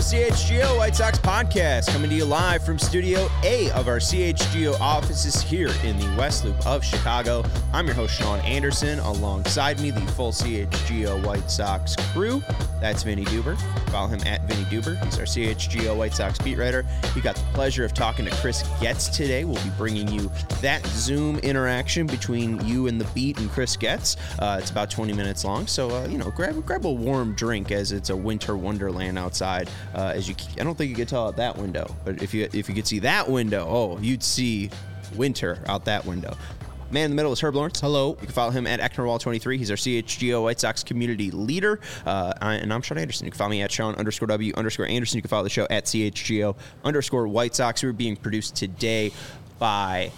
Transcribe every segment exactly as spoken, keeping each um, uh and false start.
C H G O White Sox podcast, coming to you live from Studio A of our C H G O offices here in the West Loop of Chicago. I'm your host, Sean Anderson. Alongside me, the full C H G O White Sox crew. That's Vinny Duber. Follow him at Vinny Duber. He's our C H G O White Sox beat writer. We got the pleasure of talking to Chris Getz today. We'll be bringing you that Zoom interaction between you and the beat and Chris Getz. Uh, it's about twenty minutes long, so uh, you know, grab grab a warm drink as it's a winter wonderland outside. Uh, as you, I don't think you could tell out that window, but if you if you could see that window, oh, you'd see winter out that window. Man in the middle is Herb Lawrence. Hello. You can follow him at Ecknerwall twenty-three. He's our C H G O White Sox community leader. Uh, and I'm Sean Anderson. You can follow me at Sean underscore W underscore Anderson. You can follow the show at C H G O underscore White Sox. We're being produced today by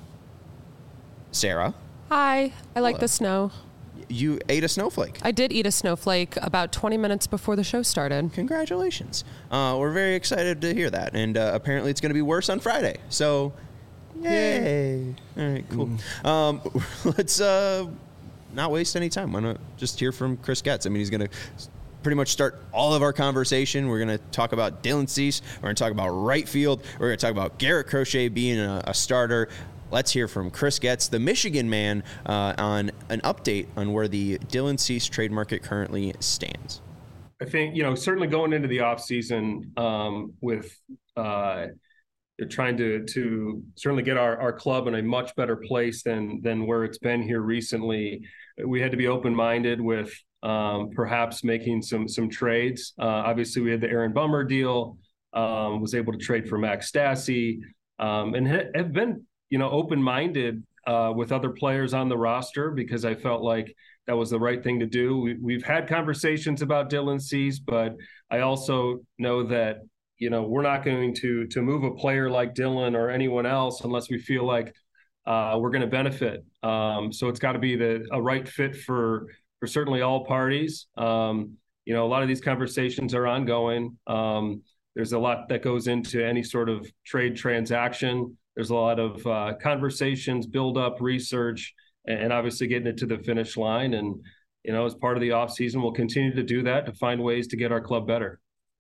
Sarah. Hi. I like Hello. the snow. You ate a snowflake. I did eat a snowflake about twenty minutes before the show started. Congratulations. Uh, we're very excited to hear that. And uh, apparently it's going to be worse on Friday. So, yay. All right, cool. Mm. Um, let's uh, not waste any time. Why not just hear from Chris Getz? I mean, he's going to pretty much start all of our conversation. We're going to talk about Dylan Cease. We're going to talk about right field. We're going to talk about Garrett Crochet being a, a starter. Let's hear from Chris Getz, the Michigan man, uh, on an update on where the Dylan Cease trade market currently stands. I think, you know, certainly going into the offseason um, with uh, trying to to certainly get our, our club in a much better place than than where it's been here recently. We had to be open-minded with um, perhaps making some some trades. Uh, obviously, we had the Aaron Bummer deal, um, was able to trade for Max Stassi, um, and ha- have been you know, open-minded uh, with other players on the roster because I felt like that was the right thing to do. We, we've had conversations about Dylan Cease, but I also know that, you know, we're not going to to move a player like Dylan or anyone else unless we feel like uh, we're going to benefit. Um, so it's got to be the a right fit for for certainly all parties. Um, you know, a lot of these conversations are ongoing. Um, there's a lot that goes into any sort of trade transaction. There's a lot of uh, conversations, build up, research, and obviously getting it to the finish line. And, you know, as part of the offseason, we'll continue to do that to find ways to get our club better.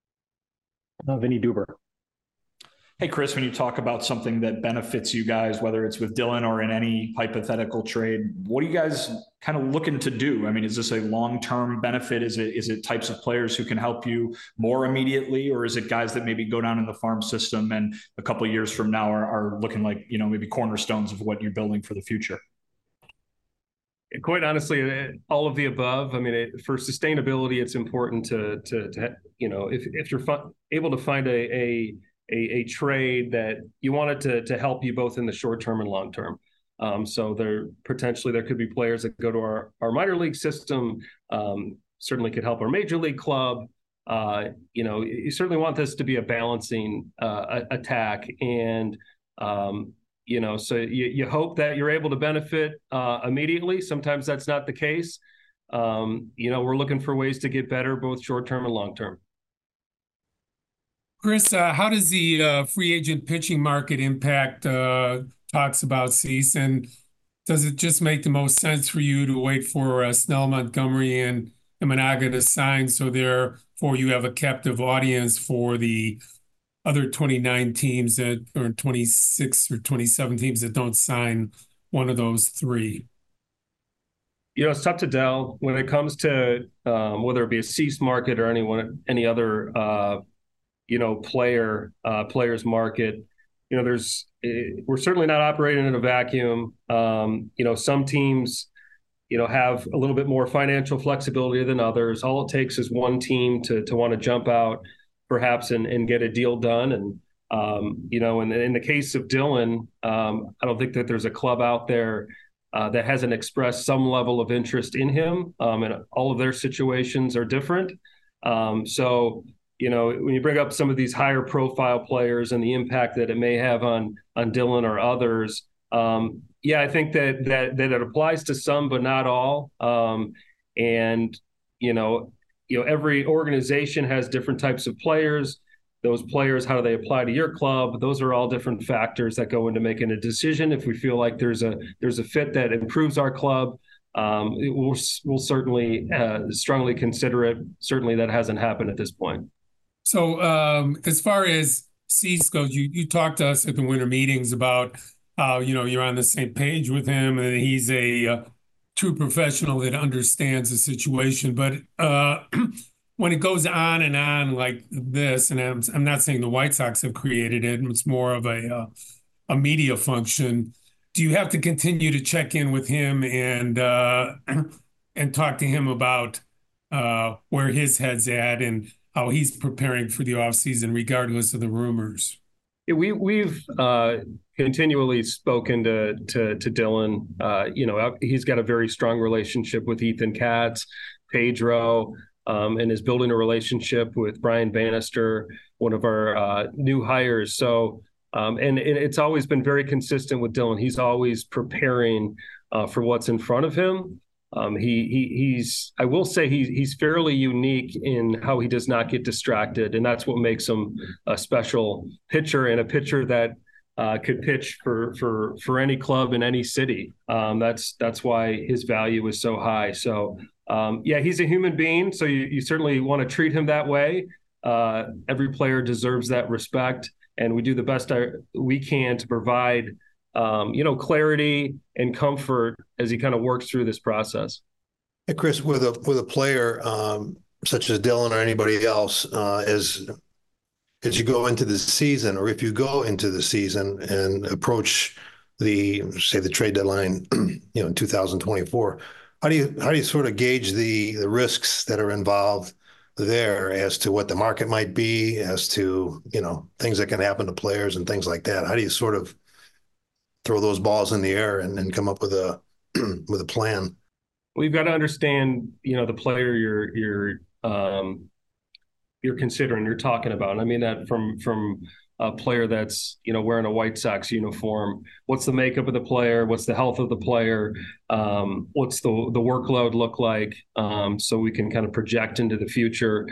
Uh, Vinny Duber. Hey, Chris, when you talk about something that benefits you guys, whether it's with Dylan or in any hypothetical trade, what are you guys kind of looking to do? I mean, is this a long-term benefit? Is it is it types of players who can help you more immediately, or is it guys that maybe go down in the farm system and a couple of years from now are, are looking like, you know, maybe cornerstones of what you're building for the future? Quite honestly, all of the above. I mean, it, for sustainability, it's important to, to, to you know, if, if you're fi- able to find a, a A, a trade that you wanted to to help you both in the short term and long term. Um, so there potentially there could be players that go to our, our minor league system, um, certainly could help our major league club. Uh, you know, you certainly want this to be a balancing uh, attack. And, um, you know, so you, you hope that you're able to benefit uh, immediately. Sometimes that's not the case. Um, you know, we're looking for ways to get better, both short term and long term. Chris, uh, how does the uh, free agent pitching market impact uh, talks about Cease? And does it just make the most sense for you to wait for uh, Snell, Montgomery, and Imanaga to sign, so therefore you have a captive audience for the other twenty-nine teams that, or twenty-six or twenty-seven teams that don't sign one of those three? You know, it's tough to tell when it comes to um, whether it be a Cease market or anyone, any other uh, you know, player, uh, players market. You know, there's, we're certainly not operating in a vacuum. Um, you know, some teams, you know, have a little bit more financial flexibility than others. All it takes is one team to to want to jump out, perhaps, and, and get a deal done. And, um, you know, in, in the case of Dylan, um, I don't think that there's a club out there uh, that hasn't expressed some level of interest in him. Um, and all of their situations are different. Um, so, you know, when you bring up some of these higher profile players and the impact that it may have on on Dylan or others, um, yeah, I think that that that it applies to some, but not all. Um, and you know, you know, every organization has different types of players. Those players, how do they apply to your club? Those are all different factors that go into making a decision. If we feel like there's a there's a fit that improves our club, um, it will we'll certainly uh, strongly consider it. Certainly, that hasn't happened at this point. So um, as far as Cease goes, you you talked to us at the winter meetings about how, you know, you're on the same page with him and he's a uh, true professional that understands the situation. But uh, when it goes on and on like this, and I'm, I'm not saying the White Sox have created it, it's more of a uh, a media function. Do you have to continue to check in with him and uh, and talk to him about uh, where his head's at and how he's preparing for the offseason, regardless of the rumors? Yeah, we we've uh, continually spoken to to, to Dylan. Uh, you know, he's got a very strong relationship with Ethan Katz, Pedro, um, and is building a relationship with Brian Bannister, one of our uh, new hires. So, um, and, and it's always been very consistent with Dylan. He's always preparing uh, for what's in front of him. Um, he, he he's I will say he, he's fairly unique in how he does not get distracted, and that's what makes him a special pitcher and a pitcher that uh, could pitch for for for any club in any city. Um, that's that's why his value is so high. So um, yeah, he's a human being, so you, you certainly want to treat him that way. Uh, every player deserves that respect, and we do the best we can to provide Um, you know, clarity and comfort as he kind of works through this process. Hey, Chris, with a with a player um, such as Dylan or anybody else, uh, as as you go into the season, or if you go into the season and approach the say the trade deadline, you know, in two thousand twenty-four, how do you how do you sort of gauge the the risks that are involved there as to what the market might be, as to, you know, things that can happen to players and things like that? How do you sort of throw those balls in the air and, and come up with a with a plan? We've got to understand, you know, the player you're you're um, you're considering, you're talking about. And I mean that from from a player that's, you know, wearing a White Sox uniform. What's the makeup of the player? What's the health of the player? Um, what's the the workload look like? Um, so we can kind of project into the future.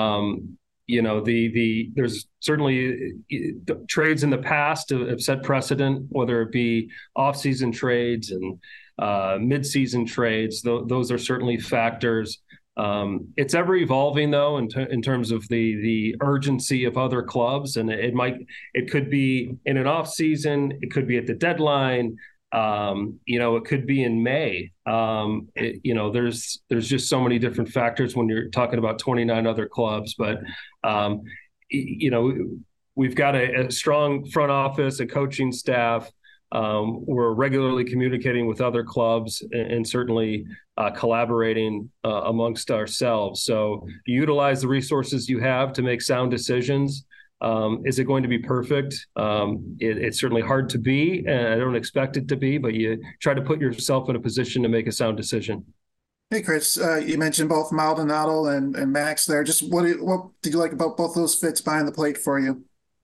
Um, You know, the the there's certainly the trades in the past have set precedent, whether it be off-season trades and uh, mid-season trades. Th- those are certainly factors. Um, it's ever evolving, though, in, t- in terms of the the urgency of other clubs, and it might it could be in an off-season, it could be at the deadline. Um, you know, it could be in May. Um, it, you know, there's there's just so many different factors when you're talking about twenty-nine other clubs. But, um, you know, we've got a, a strong front office, a coaching staff. Um, we're regularly communicating with other clubs and, and certainly uh, collaborating uh, amongst ourselves. So you utilize the resources you have to make sound decisions. Um, is it going to be perfect? Um, it, it's certainly hard to be, and I don't expect it to be, but you try to put yourself in a position to make a sound decision. Hey, Chris, uh, you mentioned both Maldonado and, and Max there. Just what, do you, what did you like about both those fits behind the plate for you?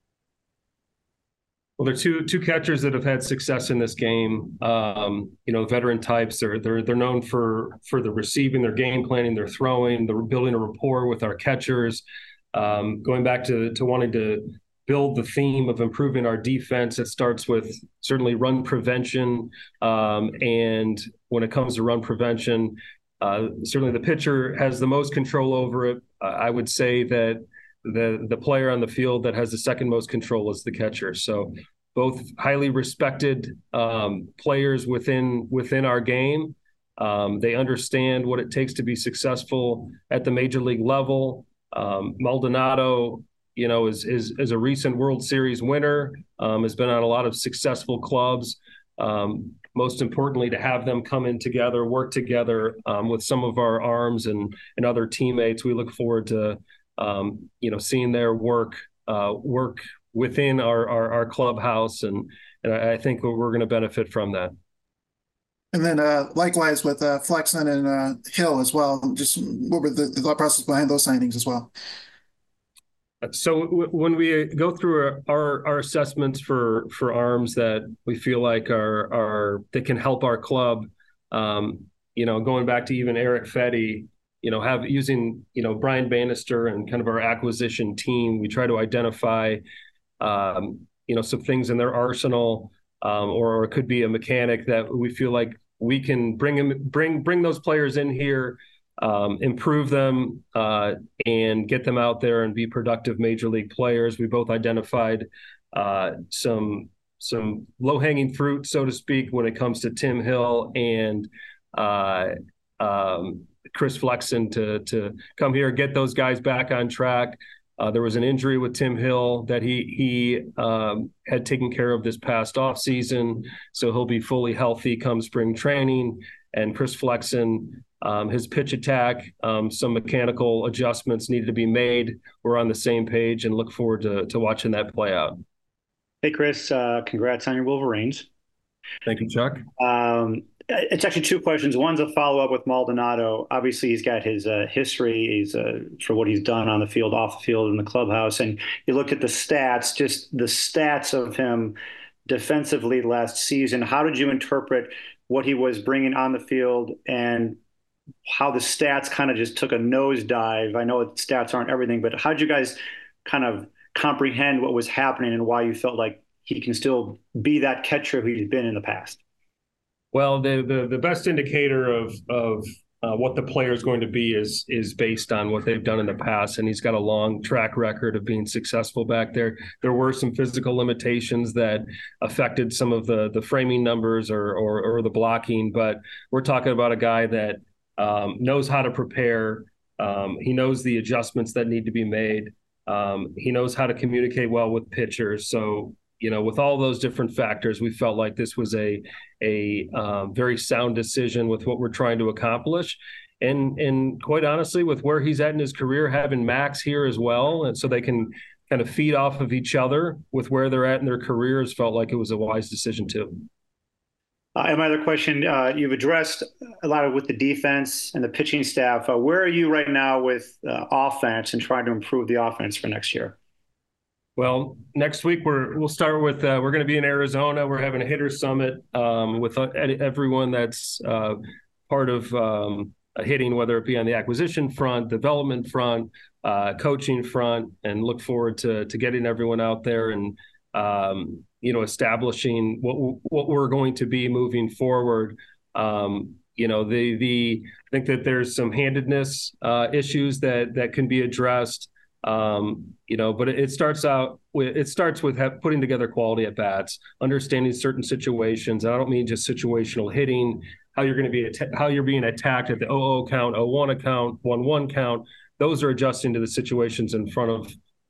Well, they're two two catchers that have had success in this game. Um, you know, veteran types. They're they're they're known for for the receiving, their game planning, their throwing, they're building a rapport with our catchers. Um, going back to, to wanting to build the theme of improving our defense, it starts with certainly run prevention. Um, and when it comes to run prevention, uh, certainly the pitcher has the most control over it. Uh, I would say that the the player on the field that has the second most control is the catcher. So both highly respected um, players within within our game. Um, they understand what it takes to be successful at the major league level. Um, Maldonado, you know, is, is is a recent World Series winner, um, has been on a lot of successful clubs. Um, most importantly, to have them come in together, work together um, with some of our arms and and other teammates. We look forward to, um, you know, seeing their work uh, work within our, our our clubhouse, and and I think we're going to benefit from that. And then uh, likewise with uh, Flexen and uh, Hill as well. Just what were the, the thought process behind those signings as well? So w- when we go through our, our assessments for, for arms that we feel like are are that can help our club, um, you know, going back to even Erick Fedde, you know, have using you know Brian Bannister and kind of our acquisition team, we try to identify, um, you know, some things in their arsenal, um, or, or it could be a mechanic that we feel like we can bring him, bring bring those players in here um, improve them uh, and get them out there and be productive major league players. We both identified uh, some some low-hanging fruit, so to speak, when it comes to Tim Hill and uh, um, Chris Flexen to to come here, get those guys back on track. Uh, there was an injury with Tim Hill that he he um, had taken care of this past offseason, so he'll be fully healthy come spring training. And Chris Flexen, um, his pitch attack, um, some mechanical adjustments needed to be made. We're on the same page and look forward to to watching that play out. Hey, Chris, uh, congrats on your Wolverines. Thank you, Chuck. Um, it's actually two questions. One's a follow-up with Maldonado. Obviously, he's got his uh, history he's, uh, for what he's done on the field, off the field, in the clubhouse. And you look at the stats, just the stats of him defensively last season. How did you interpret what he was bringing on the field and how the stats kind of just took a nosedive? I know stats aren't everything, but how did you guys kind of comprehend what was happening and why you felt like he can still be that catcher who he's been in the past? Well, the the, the best indicator of of uh, what the player is going to be is is based on what they've done in the past, and he's got a long track record of being successful back there. There were some physical limitations that affected some of the the framing numbers or or, or the blocking, but we're talking about a guy that um, knows how to prepare. Um, he knows the adjustments that need to be made. Um, he knows how to communicate well with pitchers. So, you know, with all those different factors, we felt like this was a a um, very sound decision with what we're trying to accomplish. And and quite honestly, with where he's at in his career, having Max here as well, and so they can kind of feed off of each other with where they're at in their careers, felt like it was a wise decision too. Uh, and my other question, uh, you've addressed a lot of with the defense and the pitching staff. Uh, where are you right now with uh, offense and trying to improve the offense for next year? Well, next week we're we'll start with uh, we're going to be in Arizona. We're having a hitter summit um, with uh, everyone that's uh, part of um, hitting, whether it be on the acquisition front, development front, uh, coaching front, and look forward to to getting everyone out there and um, you know establishing what what we're going to be moving forward. Um, you know, the the I think that there's some handedness uh, issues that that can be addressed. Um, you know, but it, it starts out with, it starts with have, putting together quality at bats, understanding certain situations. And I don't mean just situational hitting, how you're going to be, att- how you're being attacked at the oh oh count, oh one account, one one count. Those are adjusting to the situations in front of,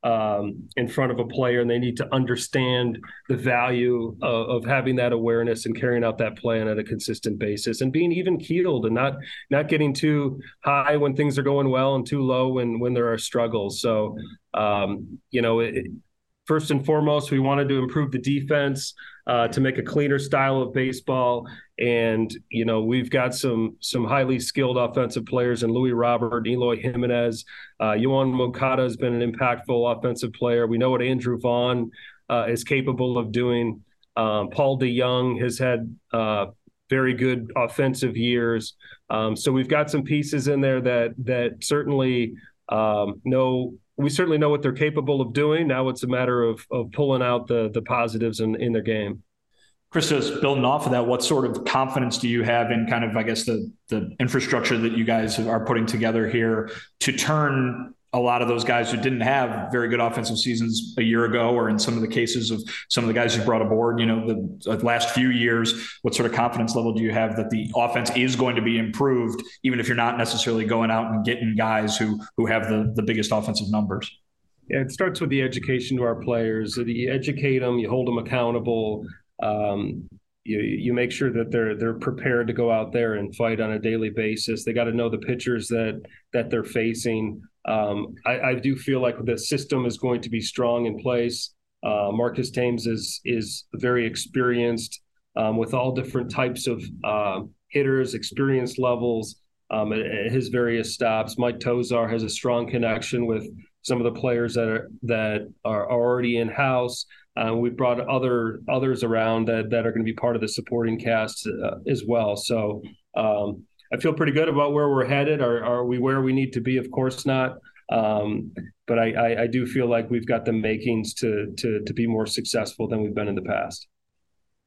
um, in front of a player, and they need to understand the value of, of having that awareness and carrying out that plan at a consistent basis, and being even keeled and not not getting too high when things are going well and too low when when there are struggles. So, um, you know, it, first and foremost, we wanted to improve the defense uh, to make a cleaner style of baseball. And, you know, we've got some some highly skilled offensive players in Louis Robert, Eloy Jimenez. Uh, Yoan Moncada has been an impactful offensive player. We know what Andrew Vaughn uh, is capable of doing. Um, Paul DeYoung has had uh, very good offensive years. Um, so we've got some pieces in there that that certainly um, know we certainly know what they're capable of doing. Now it's a matter of of pulling out the the positives in, in their game. Chris, just building off of that, what sort of confidence do you have in kind of, I guess, the the infrastructure that you guys are putting together here to turn a lot of those guys who didn't have very good offensive seasons a year ago, or in some of the cases of some of the guys you brought aboard, you know, the, the last few years, what sort of confidence level do you have that the offense is going to be improved, even if you're not necessarily going out and getting guys who who have the, the biggest offensive numbers? Yeah, it starts with the education to our players. You educate them, you hold them accountable. Um, you you make sure that they're they're prepared to go out there and fight on a daily basis. They got to know the pitchers that that they're facing. Um, I, I do feel like the system is going to be strong in place. Uh, Marcus Thames is is very experienced um, with all different types of uh, hitters, experience levels um, at, at his various stops. Mike Tozar has a strong connection with some of the players that are that are already in house. Uh, we've brought other others around that, that are going to be part of the supporting cast uh, as well. So um, I feel pretty good about where we're headed. Are, are we where we need to be? Of course not. Um, but I, I, I do feel like we've got the makings to, to to be more successful than we've been in the past.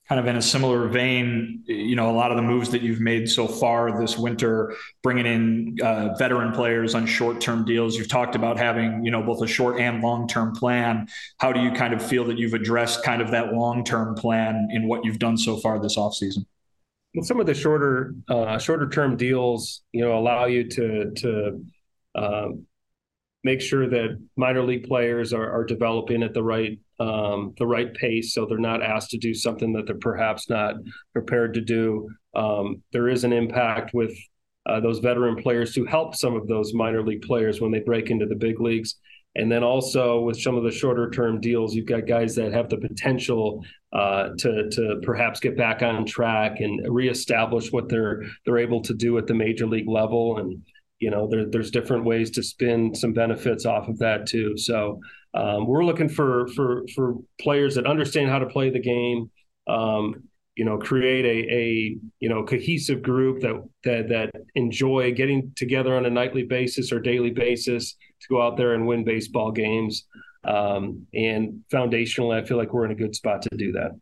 kind of in a similar vein, you know, a lot of the moves that you've made so far this winter, bringing in uh, veteran players on short-term deals. You've talked about having, you know, both a short and long-term plan. How do you kind of feel that you've addressed kind of that long-term plan in what you've done so far this offseason? Well, some of the shorter, uh, shorter-term deals, you know, allow you to to um, make sure that minor league players are, are developing at the right um, the right pace, so they're not asked to do something that they're perhaps not prepared to do. Um, there is an impact with uh, those veteran players to help some of those minor league players when they break into the big leagues. And then also with some of the shorter term deals, you've got guys that have the potential uh, to to perhaps get back on track and reestablish what they're they're able to do at the major league level. And you know, there, there's different ways to spin some benefits off of that too. So um, we're looking for for for players that understand how to play the game. Um, you know, create a a you know cohesive group that that that enjoy getting together on a nightly basis or daily basis to go out there and win baseball games. Um, and foundationally, I feel like we're in a good spot to do that.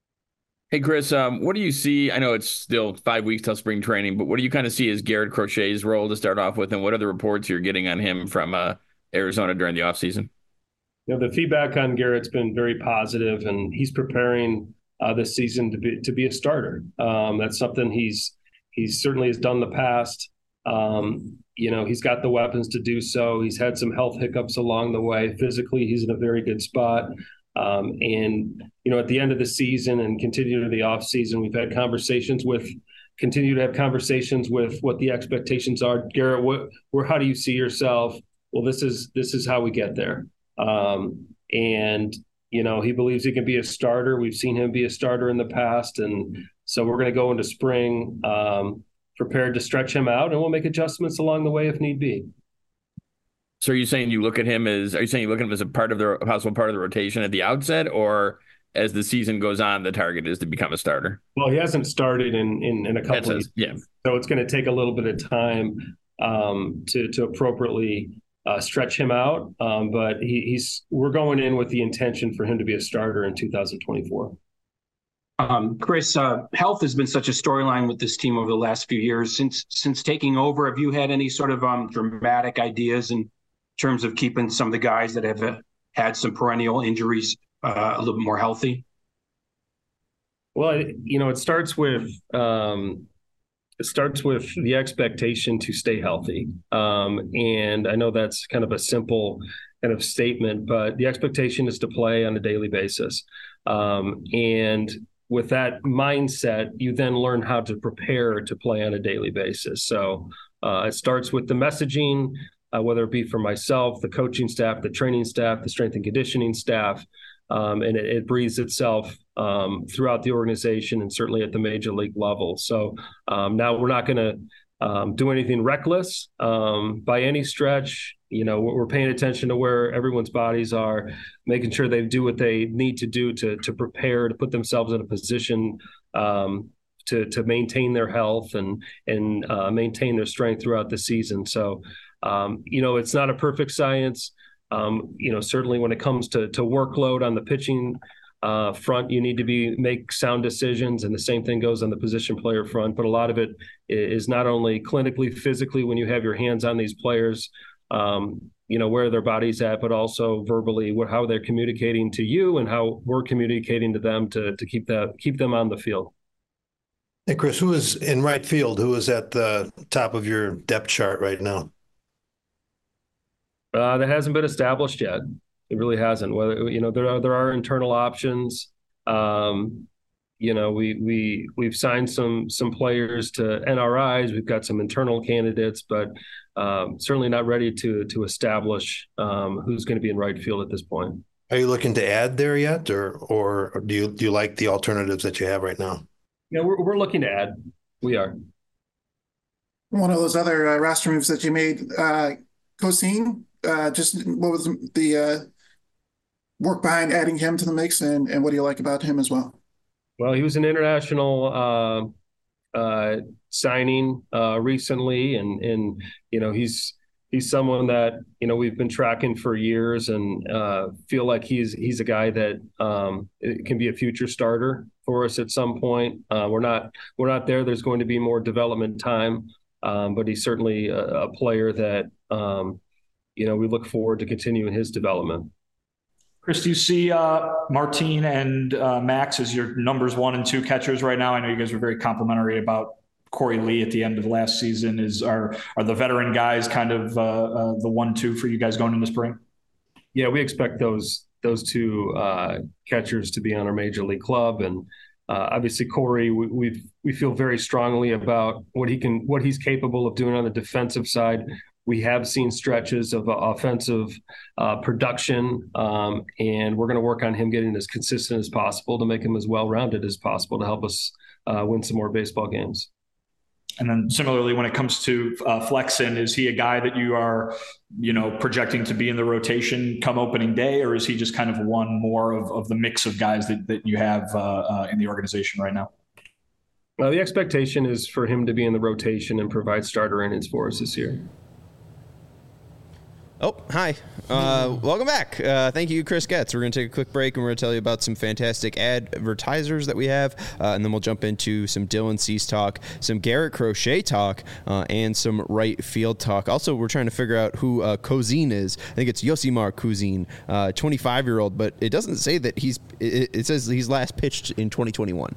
Hey, Chris, um, what do you see? I know it's still five weeks till spring training, but what do you kind of see as Garrett Crochet's role to start off with, and what are the reports you're getting on him from uh, Arizona during the offseason? You know, the feedback on Garrett's been very positive, and he's preparing uh, this season to be to be a starter. Um, that's something he's he's certainly has done in the past. Um, you know, he's got the weapons to do so. He's had some health hiccups along the way. Physically, he's in a very good spot. Um, and, you know, at the end of the season and continue to the off season, we've had conversations with, continue to have conversations with what the expectations are. Garrett, what, where, how do you see yourself? Well, this is, this is how we get there. Um, and, you know, he believes he can be a starter. We've seen him be a starter in the past. And so we're going to go into spring um, prepared to stretch him out, and we'll make adjustments along the way if need be. So are you saying you look at him as, are you saying you look at him as a part of the, a possible part of the rotation at the outset, or as the season goes on, the target is to become a starter? Well, he hasn't started in, in, in a couple of years. Yeah. So it's going to take a little bit of time um, to, to appropriately uh, stretch him out. Um, but he, he's, we're going in with the intention for him to be a starter in two thousand twenty-four. Um, Chris, uh, health has been such a storyline with this team over the last few years. Since since taking over, have you had any sort of um, dramatic ideas in terms of keeping some of the guys that have uh, had some perennial injuries uh, a little bit more healthy? Well, it, you know, it starts with um, it starts with the expectation to stay healthy. Um, and I know that's kind of a simple kind of statement, but the expectation is to play on a daily basis. Um, and with that mindset, you then learn how to prepare to play on a daily basis. So uh, it starts with the messaging, uh, whether it be for myself, the coaching staff, the training staff, the strength and conditioning staff, um, and it, it breathes itself um, throughout the organization and certainly at the major league level. So um, now we're not going to um, do anything reckless um, by any stretch. You know, we're paying attention to where everyone's bodies are, making sure they do what they need to do to to prepare, to put themselves in a position um, to to maintain their health and and uh, maintain their strength throughout the season. So, um, you know, it's not a perfect science. Um, you know, certainly when it comes to to workload on the pitching uh, front, you need to be make sound decisions, and the same thing goes on the position player front. But a lot of it is not only clinically, physically, when you have your hands on these players. Um, you know, where their body's at, but also verbally, what, how they're communicating to you and how we're communicating to them to to keep that keep them on the field. Hey, Chris, who is in right field? Who is at the top of your depth chart right now? Uh, that hasn't been established yet. It really hasn't. Whether you know, there are there are internal options. Um, you know, we we we've signed some some players to N R Is. We've got some internal candidates, but um, certainly not ready to to establish um, who's going to be in right field at this point. Are you looking to add there yet, or or do you do you like the alternatives that you have right now? Yeah, we're we're looking to add. We are. One of those other uh, roster moves that you made, uh, Cosine. Uh, just what was the uh, work behind adding him to the mix, and and what do you like about him as well? Well, he was an international uh, uh, signing uh, recently, and and you know he's he's someone that, you know, we've been tracking for years and uh, feel like he's he's a guy that um, can be a future starter for us at some point. Uh, we're not we're not there. There's going to be more development time, um, but he's certainly a, a player that, um, you know, we look forward to continuing his development. Chris, do you see uh, Martin and uh, Max as your numbers one and two catchers right now? I know you guys were very complimentary about Corey Lee at the end of last season. Is are are the veteran guys kind of uh, uh, the one two for you guys going into spring? Yeah, we expect those those two uh, catchers to be on our major league club, and uh, obviously Corey, we we we feel very strongly about what he can what he's capable of doing on the defensive side. We have seen stretches of uh, offensive uh, production, um, and we're going to work on him getting as consistent as possible to make him as well-rounded as possible to help us uh, win some more baseball games. And then similarly, when it comes to uh, Flexen, is he a guy that you are, you know, projecting to be in the rotation come opening day, or is he just kind of one more of, of the mix of guys that, that you have uh, uh, in the organization right now? Well, the expectation is for him to be in the rotation and provide starter innings for us this year. Oh, hi. Uh, welcome back. Uh, thank you, Chris Getz. We're going to take a quick break, and we're going to tell you about some fantastic advertisers that we have, uh, and then we'll jump into some Dylan Cease talk, some Garrett Crochet talk, uh, and some right field talk. Also, we're trying to figure out who uh, Cousin is. I think it's Yosimar Cousin, uh, twenty-five-year-old, but it doesn't say that he's – it, it says he's last pitched in twenty twenty-one.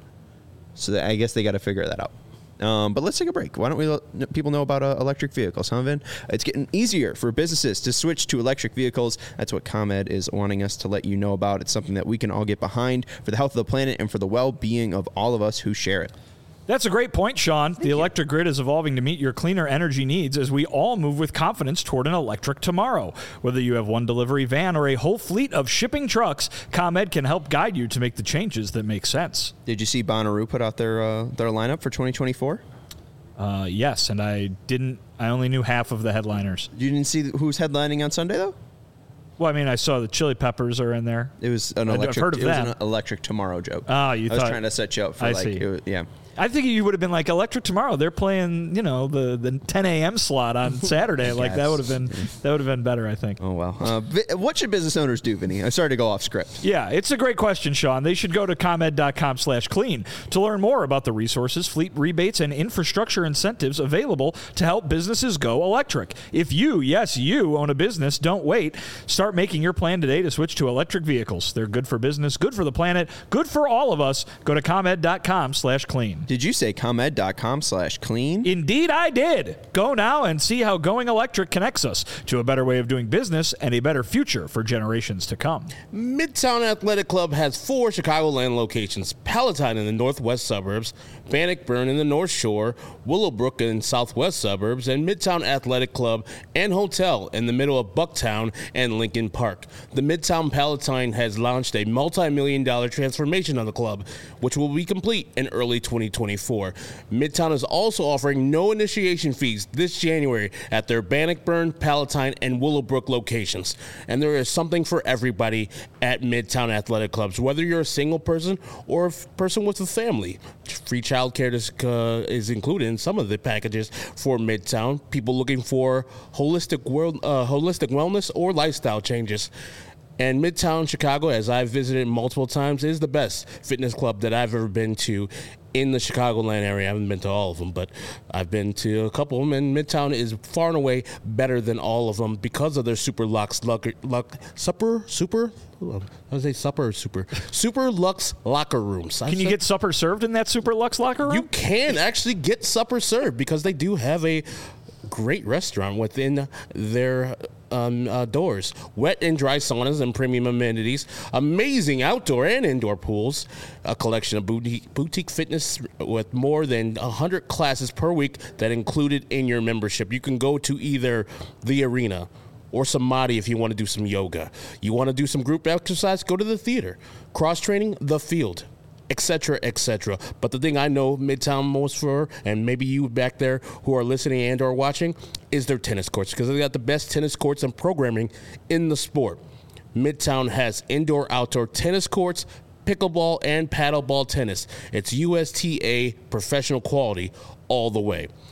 So that, I guess they got to figure that out. Um, but let's take a break. Why don't we let people know about uh, electric vehicles, huh, Vin? It's getting easier for businesses to switch to electric vehicles. That's what ComEd is wanting us to let you know about. It's something that we can all get behind for the health of the planet and for the well-being of all of us who share it. That's a great point, Sean. Thank the electric you. grid is evolving to meet your cleaner energy needs as we all move with confidence toward an electric tomorrow. Whether you have one delivery van or a whole fleet of shipping trucks, ComEd can help guide you to make the changes that make sense. Did you see Bonnaroo put out their uh, their lineup for twenty twenty-four? Uh, yes, and I didn't. I only knew half of the headliners. You didn't see who's headlining on Sunday, though? Well, I mean, I saw the Chili Peppers are in there. It was an electric. I've heard of it that. was an electric tomorrow joke. Oh, you I thought was trying to set you up for I like, see. It was, yeah. I think you would have been like Electric Tomorrow. They're playing, you know, the, the ten a.m. slot on Saturday. yes. Like that would have been that would have been better, I think. Oh well. Uh, what should business owners do, Vinny? I'm sorry to go off script. Yeah, it's a great question, Sean. They should go to ComEd dot com slash clean to learn more about the resources, fleet rebates, and infrastructure incentives available to help businesses go electric. If you, yes, you own a business, don't wait. Start making your plan today to switch to electric vehicles. They're good for business, good for the planet, good for all of us. Go to ComEd dot com slash clean. Did you say ComEd dot com slash clean? Indeed, I did. Go now and see how going electric connects us to a better way of doing business and a better future for generations to come. Midtown Athletic Club has four Chicagoland locations: Palatine in the northwest suburbs, Bannockburn in the north shore, Willowbrook in southwest suburbs, and Midtown Athletic Club and Hotel in the middle of Bucktown and Lincoln Park. The Midtown Palatine has launched a multi-million dollar transformation of the club, which will be complete in early twenty twenty-four. Midtown is also offering no initiation fees this January at their Bannockburn, Palatine, and Willowbrook locations. And there is something for everybody at Midtown Athletic Clubs, whether you're a single person or a person with a family. Free childcare is, uh, is included in some of the packages for Midtown. People looking for holistic world, uh, holistic wellness or lifestyle changes. And Midtown Chicago, as I've visited multiple times, is the best fitness club that I've ever been to in the Chicagoland area. I haven't been to all of them, but I've been to a couple of them, and Midtown is far and away better than all of them because of their Super Lux, luck, luck, supper, super, I was say supper or super, Super Lux locker rooms. Can you get supper served in that Super Lux locker room? You can actually get supper served because they do have a great restaurant within their um, uh, doors. Wet and dry saunas and premium amenities, amazing outdoor and indoor pools, a collection of boutique, boutique fitness with more than one hundred classes per week that included in your membership. You can go to either the arena or Samadhi if you want to do some yoga. You want to do some group exercise, go to the theater. Cross-training, the field, etc., et cetera. But the thing I know Midtown most for, and maybe you back there who are listening and or watching, is their tennis courts, because they got the best tennis courts and programming in the sport. Midtown has indoor-outdoor tennis courts, pickleball, and paddleball tennis. It's U S T A professional quality all the way.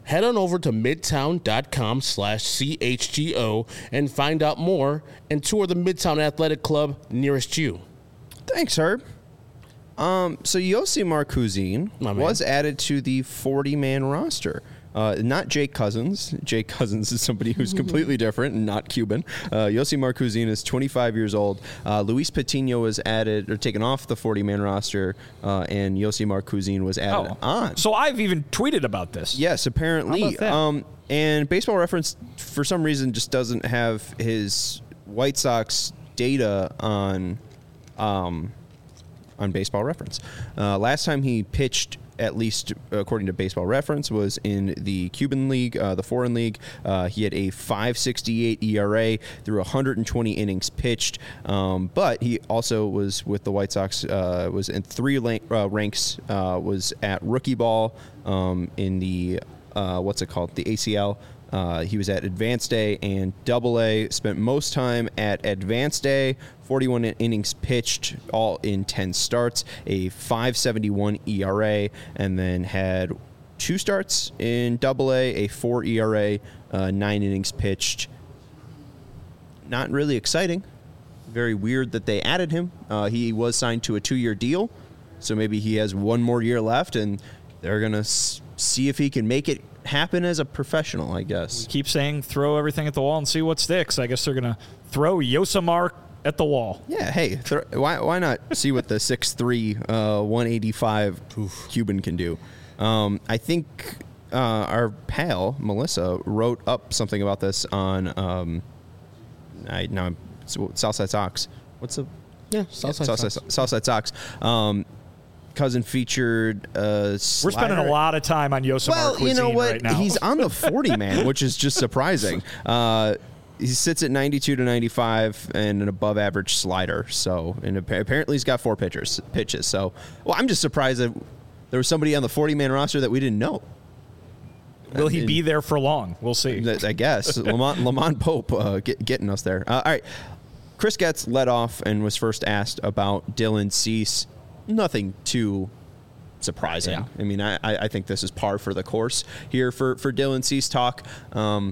head on over to midtown.com slash CHGO and find out more and tour the Midtown Athletic Club nearest you. Thanks, Herb. Um, so Yosimar Kuzin was added to the forty-man roster. Uh, not Jake Cousins. Jake Cousins is somebody who's completely different and not Cuban. Uh, Yosimar Kuzin is twenty-five years old. Uh, Luis Patino was added or taken off the forty-man roster, uh, and Yosimar Kuzin was added oh. on. So I've even tweeted about this. Yes, apparently. How about that? Um, and Baseball Reference, for some reason, just doesn't have his White Sox data on um, on Baseball Reference. Uh, last time he pitched, at least according to Baseball Reference, was in the Cuban League, uh, the Foreign League. Uh, he had a five sixty-eight E R A through one hundred twenty innings pitched, um, but he also was with the White Sox, uh, was in three la- uh, ranks, uh, was at rookie ball um, in the, uh, what's it called, the A C L. Uh, he was at Advanced A and Double A, spent most time at Advanced A, forty-one innings pitched, all in ten starts, a five seventy-one E R A, and then had two starts in Double A, a four E R A, uh, nine innings pitched. Not really exciting. Very weird that they added him. Uh, he was signed to a two-year deal, so maybe he has one more year left, and they're going to s- see if he can make it happen as a professional, I guess. We keep saying throw everything at the wall and see what sticks. I guess they're going to throw Yosimar at the wall. Yeah, hey, th- why why not see what the six three, uh, one eighty-five Oof. Cuban can do? Um, I think uh, our pal, Melissa, wrote up something about this on um, I no, Southside Sox. What's the... Yeah, Southside, yeah, Southside Sox. Southside Sox. Um, Cousin featured a We're spending a lot of time on Yosimar well, Cuisine you know what? right now. He's on the forty-man, which is just surprising. Uh, he sits at ninety-two to ninety-five and an above-average slider. So, and apparently he's got four pitchers, pitches. So, well, I'm just surprised that there was somebody on the forty-man roster that we didn't know. Will he be there for long? We'll see. I guess. Lamont, Lamont Pope uh, get, getting us there. Uh, all right. Chris Getz led off and was first asked about Dylan Cease. Nothing too surprising. Yeah. I mean, I, I think this is par for the course here for, for Dylan Cease talk. Um,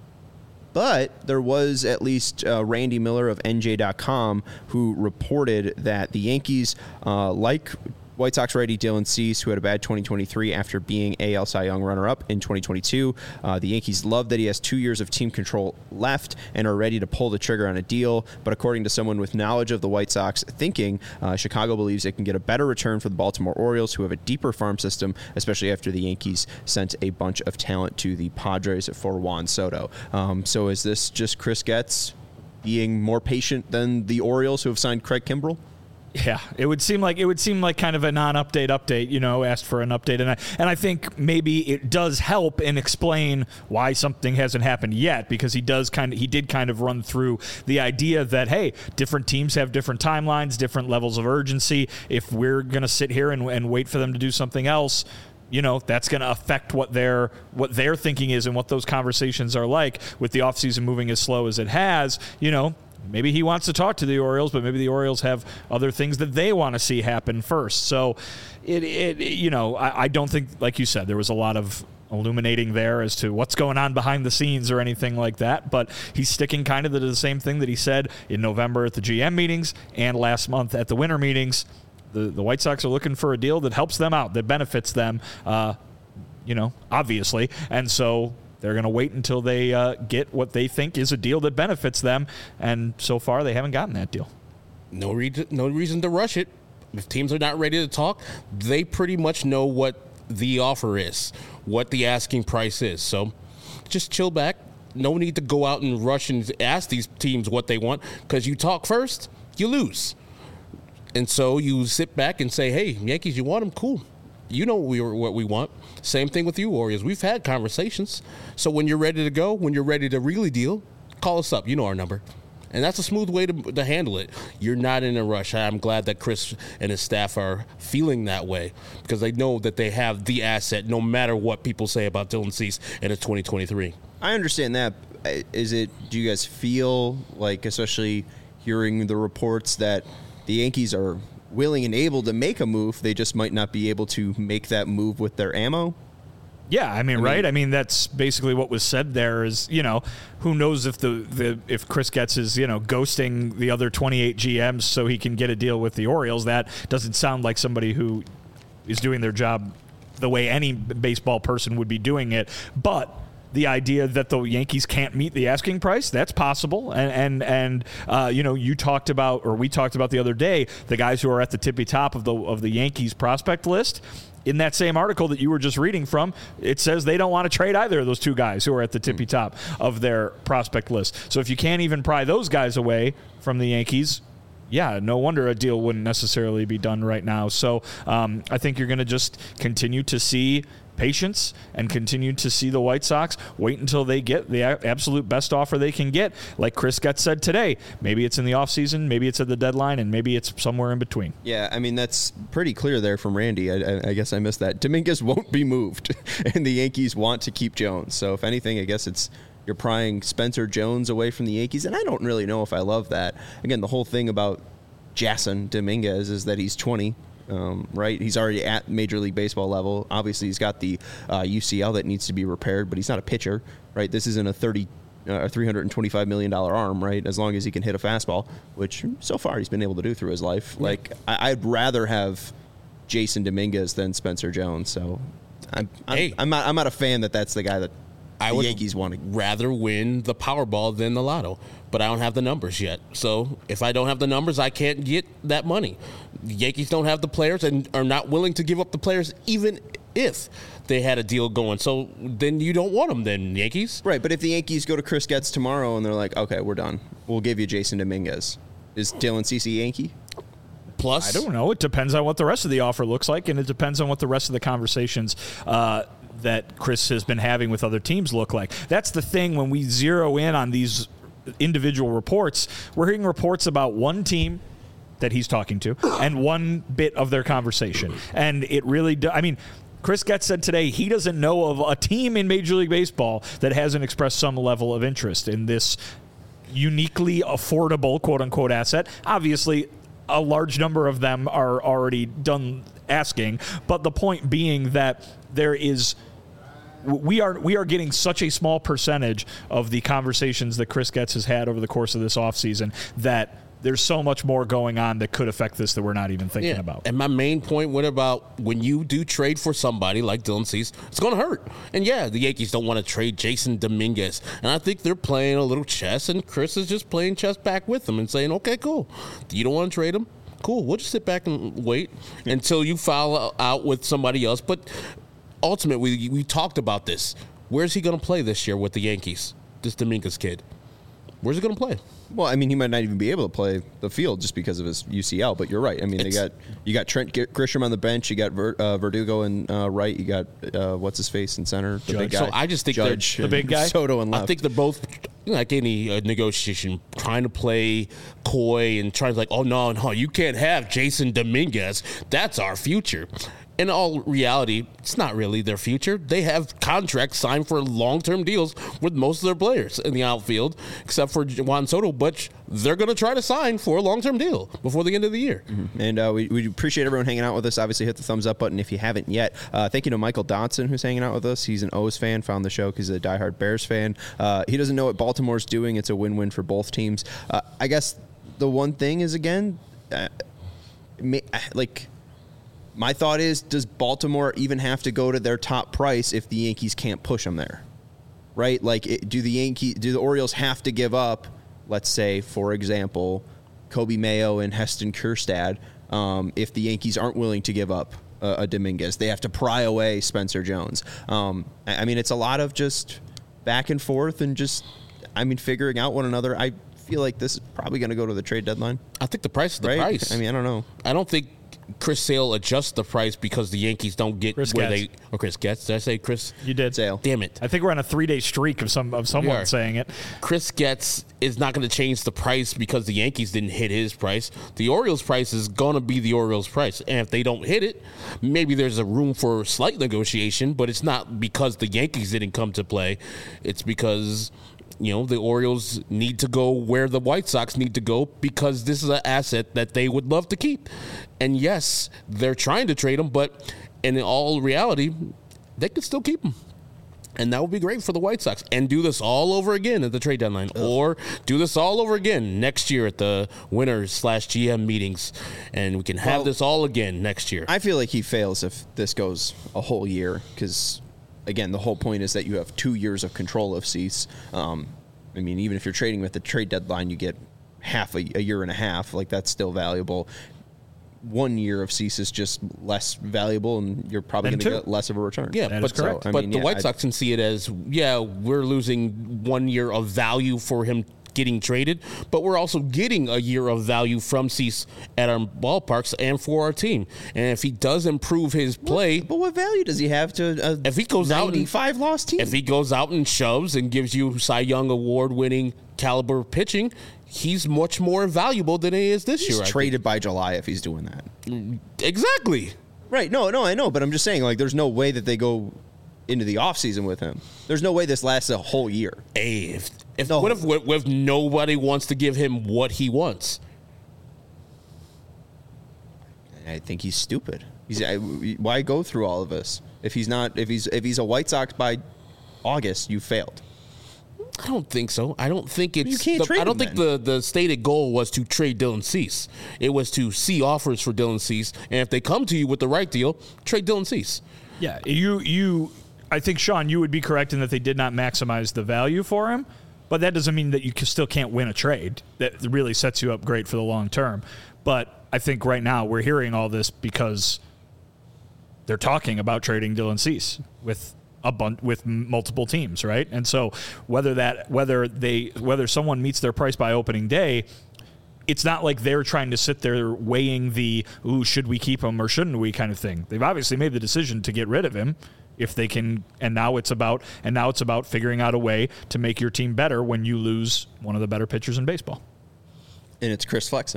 but there was at least uh, Randy Miller of N J dot com who reported that the Yankees, uh, like White Sox righty Dylan Cease, who had a bad twenty twenty-three after being A L Cy Young runner-up in twenty twenty-two. Uh, the Yankees love that he has two years of team control left and are ready to pull the trigger on a deal. But according to someone with knowledge of the White Sox thinking, uh, Chicago believes it can get a better return for the Baltimore Orioles, who have a deeper farm system, especially after the Yankees sent a bunch of talent to the Padres for Juan Soto. Um, so is this just Chris Getz being more patient than the Orioles, who have signed Craig Kimbrell? Yeah, it would seem like it would seem like kind of a non-update update, you know, asked for an update. And I, and I think maybe it does help and explain why something hasn't happened yet, because he does kind of he did kind of run through the idea that, hey, different teams have different timelines, different levels of urgency. If we're going to sit here and, and wait for them to do something else, you know, that's going to affect what their what their thinking is and what those conversations are like. With the offseason moving as slow as it has, you know, maybe he wants to talk to the Orioles, but maybe the Orioles have other things that they want to see happen first. So, it, it you know, I, I don't think, like you said, there was a lot of illuminating there as to what's going on behind the scenes or anything like that. But he's sticking kind of to the same thing that he said in November at the G M meetings and last month at the winter meetings. The, the White Sox are looking for a deal that helps them out, that benefits them, uh, you know, obviously. And so they're going to wait until they uh, get what they think is a deal that benefits them, and so far they haven't gotten that deal. No reason, no reason to rush it. If teams are not ready to talk, they pretty much know what the offer is, what the asking price is. So just chill back. No need to go out and rush and ask these teams what they want, because you talk first, you lose. And so you sit back and say, hey, Yankees, you want them? Cool. You know what we, what we want. Same thing with you, Orioles. We've had conversations. So when you're ready to go, when you're ready to really deal, call us up. You know our number. And that's a smooth way to, to handle it. You're not in a rush. I'm glad that Chris and his staff are feeling that way, because they know that they have the asset no matter what people say about Dylan Cease in his twenty twenty-three. I understand that. Is it, do you guys feel like, especially hearing the reports, that the Yankees are willing and able to make a move, they just might not be able to make that move with their ammo? Yeah, I mean, I right? Mean, I mean, that's basically what was said there is, you know, who knows if the, the if Chris Getz is, you know, ghosting the other twenty-eight G Ms so he can get a deal with the Orioles. That doesn't sound like somebody who is doing their job the way any baseball person would be doing it. But the idea that the Yankees can't meet the asking price, that's possible. And, and, and uh, you know, you talked about, or we talked about the other day, the guys who are at the tippy top of the of the Yankees prospect list. In that same article that you were just reading from, it says they don't want to trade either of those two guys who are at the tippy top of their prospect list. So if you can't even pry those guys away from the Yankees, yeah, no wonder a deal wouldn't necessarily be done right now. So um, I think you're going to just continue to see patience and continue to see the White Sox wait until they get the absolute best offer they can get. Like Chris Getz said today, maybe it's in the offseason, maybe it's at the deadline, and maybe it's somewhere in between. Yeah, I mean, that's pretty clear there from Randy. I, I, I guess I missed that. Dominguez won't be moved, and the Yankees want to keep Jones. So if anything, I guess it's you're prying Spencer Jones away from the Yankees, and I don't really know if I love that. Again, the whole thing about Jason Dominguez is that he's twenty. Um, right, he's already at Major League Baseball level. Obviously, he's got the uh, U C L that needs to be repaired, but he's not a pitcher, right? This isn't a thirty, uh, three hundred twenty-five million dollar arm, right? As long as he can hit a fastball, which so far he's been able to do through his life. Yeah. Like, I- I'd rather have Jason Dominguez than Spencer Jones. So, I'm I'm, hey. I'm not I'm not a fan that that's the guy that I the would Yankees want to rather win the Powerball than the Lotto, but I don't have the numbers yet. So if I don't have the numbers, I can't get that money. The Yankees don't have the players and are not willing to give up the players even if they had a deal going. So then you don't want them then, Yankees. Right, but if the Yankees go to Chris Getz tomorrow and they're like, okay, we're done, we'll give you Jason Dominguez. Is Dylan Cease Yankee? Plus, I don't know. It depends on what the rest of the offer looks like, and it depends on what the rest of the conversations uh, that Chris has been having with other teams look like. That's the thing when we zero in on these individual reports. We're hearing reports about one team that he's talking to and one bit of their conversation. And it really do, I mean, Chris Getz said today he doesn't know of a team in Major League Baseball that hasn't expressed some level of interest in this uniquely affordable, quote-unquote, asset. Obviously, a large number of them are already done asking, but the point being that there is we are we are getting such a small percentage of the conversations that Chris Getz has had over the course of this offseason that there's so much more going on that could affect this that we're not even thinking yeah. about. And my main point, what about when you do trade for somebody like Dylan Cease, it's going to hurt. And yeah, the Yankees don't want to trade Jason Dominguez. And I think they're playing a little chess, and Chris is just playing chess back with them and saying, okay, cool. You don't want to trade him? Cool. We'll just sit back and wait until you file out with somebody else. But ultimately, we, we talked about this. Where's he going to play this year with the Yankees, this Dominguez kid? Where's he going to play? Well, I mean, he might not even be able to play the field just because of his U C L. But you're right. I mean, it's, they got you got Trent Grisham on the bench. You got Ver, uh, Verdugo and uh, right. You got uh, what's his face in center, the Judge. big guy. So I just think Judge they're the big guy. Soto and left. I think they're both like any uh, negotiation, trying to play coy and trying to like, oh no, no, you can't have Jason Dominguez. That's our future. In all reality, it's not really their future. They have contracts signed for long-term deals with most of their players in the outfield, except for Juan Soto, but they're going to try to sign for a long-term deal before the end of the year. Mm-hmm. And uh, we, we appreciate everyone hanging out with us. Obviously, hit the thumbs up button if you haven't yet. Uh, thank you to Michael Dotson, who's hanging out with us. He's an O's fan, found the show because he's a diehard Bears fan. Uh, he doesn't know what Baltimore's doing. It's a win-win for both teams. Uh, I guess the one thing is, again, uh, like... my thought is, does Baltimore even have to go to their top price if the Yankees can't push them there? Right? Like, it, do the Yankee, do the Orioles have to give up, let's say, for example, Kobe Mayo and Heston Kjerstad, um, if the Yankees aren't willing to give up uh, a Dominguez? They have to pry away Spencer Jones. Um, I, I mean, it's a lot of just back and forth and just, I mean, figuring out one another. I feel like this is probably going to go to the trade deadline. I think the price is the right? price. I mean, I don't know. I don't think Chris Sale adjusts the price because the Yankees don't get Chris where Getz. they. Or Chris Getz. Did I say Chris? You did. Sale. Damn it. I think we're on a three-day streak of some of someone saying it. Chris Getz is not going to change the price because the Yankees didn't hit his price. The Orioles' price is going to be the Orioles' price. And if they don't hit it, maybe there's a room for slight negotiation, but it's not because the Yankees didn't come to play. It's because, you know, the Orioles need to go where the White Sox need to go because this is an asset that they would love to keep. And yes, they're trying to trade him, but in all reality, they could still keep him. And that would be great for the White Sox. And do this all over again at the trade deadline. Ugh. Or do this all over again next year at the winners slash G M meetings. And we can have well, this all again next year. I feel like he fails if this goes a whole year. Because, again, the whole point is that you have two years of control of Cease. Um, I mean, even if you're trading with the trade deadline, you get half a, a year and a half. Like, that's still valuable. One year of Cease is just less valuable, and you're probably going to get less of a return. Yeah, that but, correct. So, but mean, the yeah, White Sox I'd, can see it as, yeah, we're losing one year of value for him getting traded, but we're also getting a year of value from Cease at our ballparks and for our team. And if he does improve his play, what, but what value does he have to? A if he goes out and five loss team, if he goes out and shoves and gives you Cy Young award winning caliber pitching, he's much more valuable than he is this he's year. He's traded by July if he's doing that. Exactly. Right. No, no, I know, but I'm just saying, like, there's no way that they go into the offseason with him. There's no way this lasts a whole year. Hey, if, if, no. what, if, what if nobody wants to give him what he wants? I think he's stupid. He's I, why go through all of this if he's not if he's if he's a White Sox by August, you failed. I don't think so. I don't think it's. You can't the, trade I don't him think the, the stated goal was to trade Dylan Cease. It was to see offers for Dylan Cease, and if they come to you with the right deal, trade Dylan Cease. Yeah, you you. I think Sean, you would be correct in that they did not maximize the value for him, but that doesn't mean that you still can't win a trade. That really sets you up great for the long term. But I think right now we're hearing all this because they're talking about trading Dylan Cease with. A bunch with multiple teams, right? And so whether that whether they whether someone meets their price by opening day, it's not like they're trying to sit there weighing the ooh, should we keep him or shouldn't we kind of thing. They've obviously made the decision to get rid of him if they can, and now it's about and now it's about figuring out a way to make your team better when you lose one of the better pitchers in baseball. And it's Chris Flexen.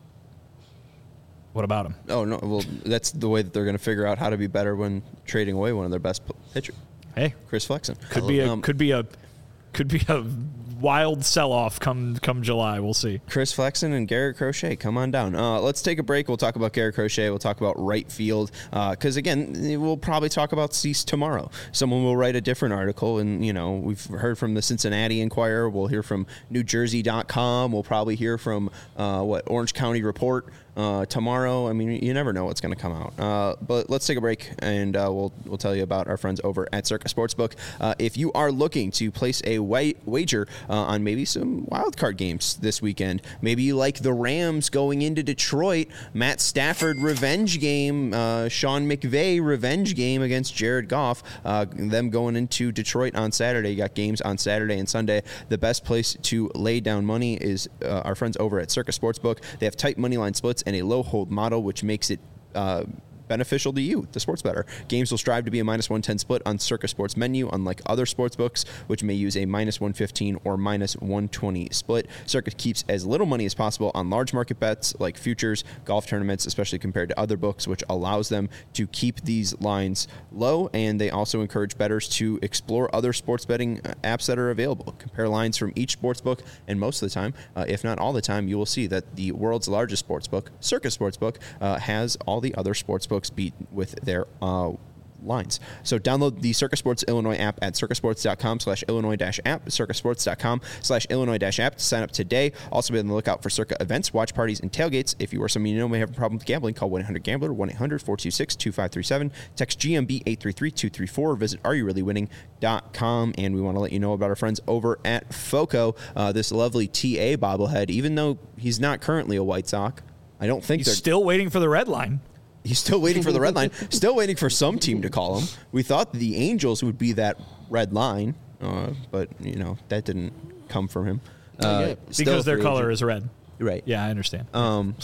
What about him? Oh no, well that's the way that they're going to figure out how to be better when trading away one of their best pitchers. Hey, Chris Flexen could be a um, could be a could be a wild sell-off come come July. We'll see. Chris Flexen and Garrett Crochet, come on down. Uh, let's take a break. We'll talk about Garrett Crochet. We'll talk about right field because uh, again, we'll probably talk about Cease tomorrow. Someone will write a different article, and you know we've heard from the Cincinnati Enquirer. We'll hear from New Jersey dot com. We'll probably hear from uh, what Orange County Report. Uh, tomorrow, I mean, you never know what's going to come out. Uh, but let's take a break, and uh, we'll we'll tell you about our friends over at Circa Sportsbook. Uh, if you are looking to place a wa- wager uh, on maybe some wild card games this weekend, maybe you like the Rams going into Detroit, Matt Stafford revenge game, uh, Sean McVay revenge game against Jared Goff, uh, them going into Detroit on Saturday. You got games on Saturday and Sunday. The best place to lay down money is uh, our friends over at Circa Sportsbook. They have tight money line splits and a low hold model, which makes it uh, beneficial to you, the sports bettor. Games will strive to be a minus one ten split on Circa Sports menu, unlike other sports books, which may use a minus one fifteen or minus one twenty split. Circa keeps as little money as possible on large market bets like futures, golf tournaments, especially compared to other books, which allows them to keep these lines low. And they also encourage bettors to explore other sports betting apps that are available. Compare lines from each sports book, and most of the time, uh, if not all the time, you will see that the world's largest sports book, Circa Sportsbook, uh, has all the other sports books beat with their uh, lines. So download the Circa Sports Illinois app at circasports.com slash Illinois dash app, circasports.com slash Illinois dash app to sign up today. Also be on the lookout for Circa events, watch parties, and tailgates. If you or someone you know may have a problem with gambling, call one eight hundred gambler, one eight hundred four two six two five three seven, text G M B eight three three two three four, visit are you really winning dot com. And we want to let you know about our friends over at FOCO, uh, this lovely T A bobblehead. Even though he's not currently a White Sox, I don't think he's they're still waiting for the red line. He's still waiting for the red line, still waiting for some team to call him. We thought the Angels would be that red line, uh, but, you know, that didn't come from him. Uh, because their color agent. is red. Right. Yeah, I understand. Um,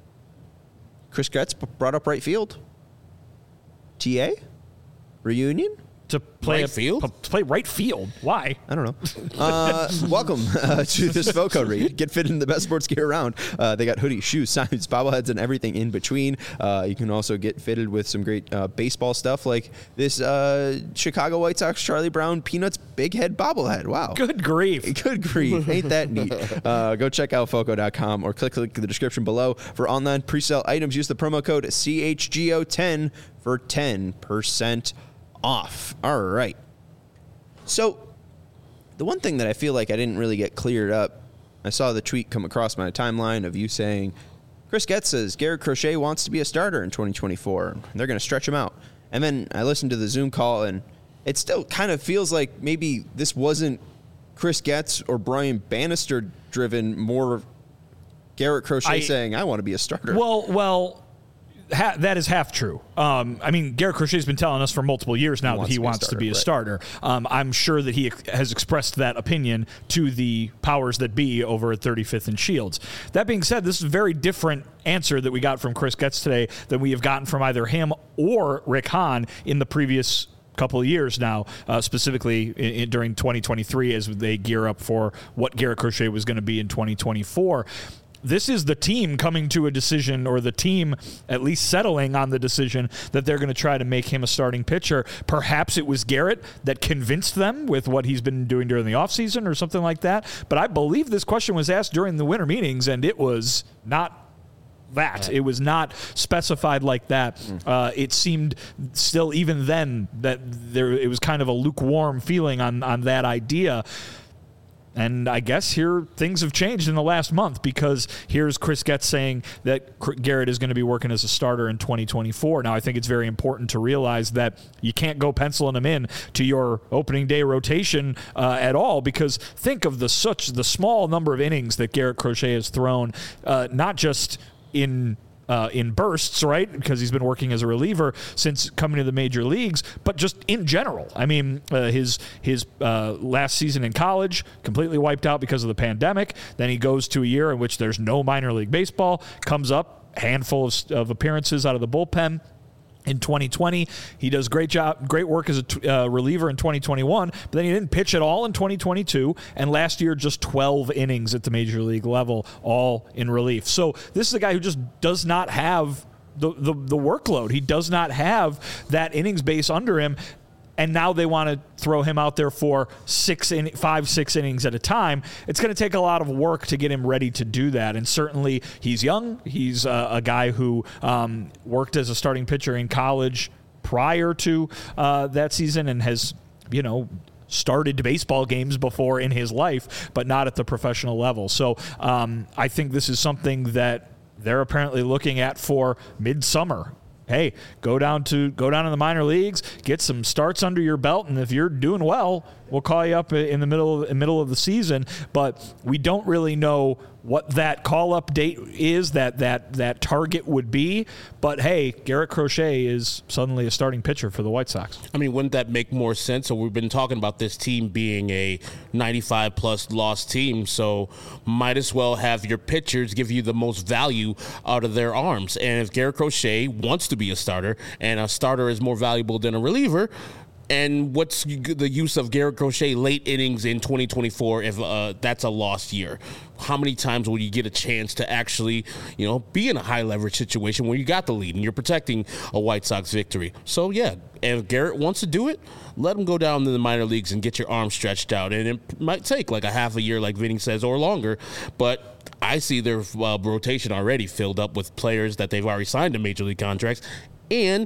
Chris Getz brought up right field. T A? Reunion? To play right a, field? To play right field. Why? I don't know. Uh, welcome uh, to this FOCO read. Get fit in the best sports gear around. Uh, they got hoodies, shoes, signs, bobbleheads, and everything in between. Uh, you can also get fitted with some great uh, baseball stuff like this uh, Chicago White Sox Charlie Brown Peanuts Big Head bobblehead. Wow. Good grief. Good grief. Ain't that neat? Uh, go check out foco dot com or click, click the description below for online pre-sale items. Use the promo code C H G O ten for ten percent off. All right. So the one thing that I feel like I didn't really get cleared up, I saw the tweet come across my timeline of you saying, Chris Getz says Garrett Crochet wants to be a starter in twenty twenty-four. They're going to stretch him out. And then I listened to the Zoom call, and it still kind of feels like maybe this wasn't Chris Getz or Brian Bannister driven, more Garrett Crochet I, saying, I want to be a starter. Well, well, ha- that is half true. Um, I mean, Garrett Crochet has been telling us for multiple years now he that he wants to be a starter. Um, I'm sure that he ex- has expressed that opinion to the powers that be over at thirty-fifth and Shields. That being said, this is a very different answer that we got from Chris Getz today than we have gotten from either him or Rick Hahn in the previous couple of years now, uh, specifically in, in, during twenty twenty-three as they gear up for what Garrett Crochet was going to be in twenty twenty-four. This is the team coming to a decision, or the team at least settling on the decision that they're going to try to make him a starting pitcher. Perhaps it was Garrett that convinced them with what he's been doing during the offseason or something like that. But I believe this question was asked during the winter meetings, and it was not that. It was not specified like that. Uh, it seemed still, even then, that there it was kind of a lukewarm feeling on, on that idea. And I guess here things have changed in the last month, because here's Chris Getz saying that Garrett is going to be working as a starter in twenty twenty-four. Now, I think it's very important to realize that you can't go penciling him in to your opening day rotation uh, at all, because think of the such the small number of innings that Garrett Crochet has thrown, uh, not just in Uh, in bursts, right? Because he's been working as a reliever since coming to the major leagues, but just in general. I mean, uh, his his uh, last season in college completely wiped out because of the pandemic. Then he goes to a year in which there's no minor league baseball, comes up, handful of, of appearances out of the bullpen. In twenty twenty, he does great job, great work as a t- uh, reliever in twenty twenty-one, but then he didn't pitch at all in twenty twenty-two, and last year just twelve innings at the major league level, all in relief. So this is a guy who just does not have the the, the workload. He does not have that innings base under him, and now they want to throw him out there for six, in, five, six innings at a time. It's going to take a lot of work to get him ready to do that. And certainly he's young. He's uh, a guy who um, worked as a starting pitcher in college prior to uh, that season and has, you know, started baseball games before in his life, but not at the professional level. So um, I think this is something that they're apparently looking at for midsummer. Hey, go down to go down in the minor leagues, get some starts under your belt, and if you're doing well, we'll call you up in the middle of, in middle of the season. But we don't really know what that call-up date is, that that that target would be. But hey, Garrett Crochet is suddenly a starting pitcher for the White Sox. I mean, wouldn't that make more sense? So we've been talking about this team being a ninety-five plus loss team, so might as well have your pitchers give you the most value out of their arms. And if Garrett Crochet wants to be a starter, and a starter is more valuable than a reliever, and what's the use of Garrett Crochet late innings in twenty twenty-four if uh, that's a lost year? How many times will you get a chance to actually, you know, be in a high leverage situation where you got the lead and you're protecting a White Sox victory? So, yeah, if Garrett wants to do it, let him go down to the minor leagues and get your arm stretched out. And it might take like a half a year, like Vinny says, or longer. But I see their uh, rotation already filled up with players that they've already signed to major league contracts. And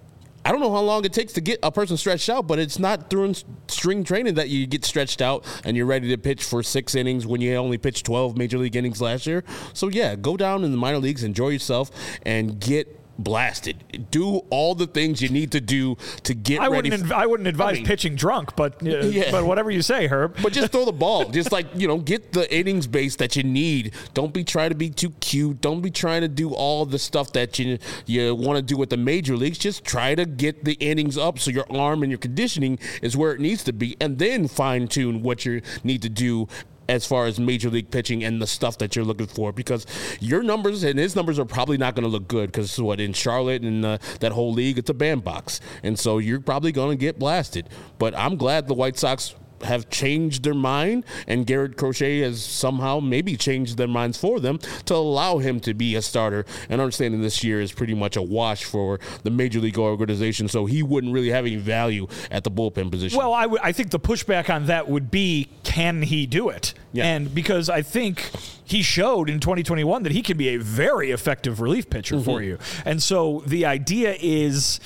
I don't know how long it takes to get a person stretched out, but it's not during string training that you get stretched out and you're ready to pitch for six innings when you only pitched twelve major league innings last year. So, yeah, go down in the minor leagues, enjoy yourself, and get blasted. Do all the things you need to do to get I ready. Wouldn't, f- I wouldn't advise I mean, pitching drunk, but uh, yeah. but whatever you say, Herb. But just throw the ball. Just like, you know, get the innings base that you need. Don't be trying to be too cute. Don't be trying to do all the stuff that you you want to do with the major leagues. Just try to get the innings up so your arm and your conditioning is where it needs to be, and then fine tune what you need to do as far as major league pitching and the stuff that you're looking for, because your numbers and his numbers are probably not going to look good, because what in Charlotte and uh, that whole league, it's a bandbox, and so you're probably going to get blasted. But I'm glad the White Sox have changed their mind, and Garrett Crochet has somehow maybe changed their minds for them to allow him to be a starter. And understanding this year is pretty much a wash for the major league organization, so he wouldn't really have any value at the bullpen position. Well, I, w- I think the pushback on that would be, can he do it? Yeah. And because I think he showed in twenty twenty-one that he can be a very effective relief pitcher mm-hmm. for you. And so the idea is,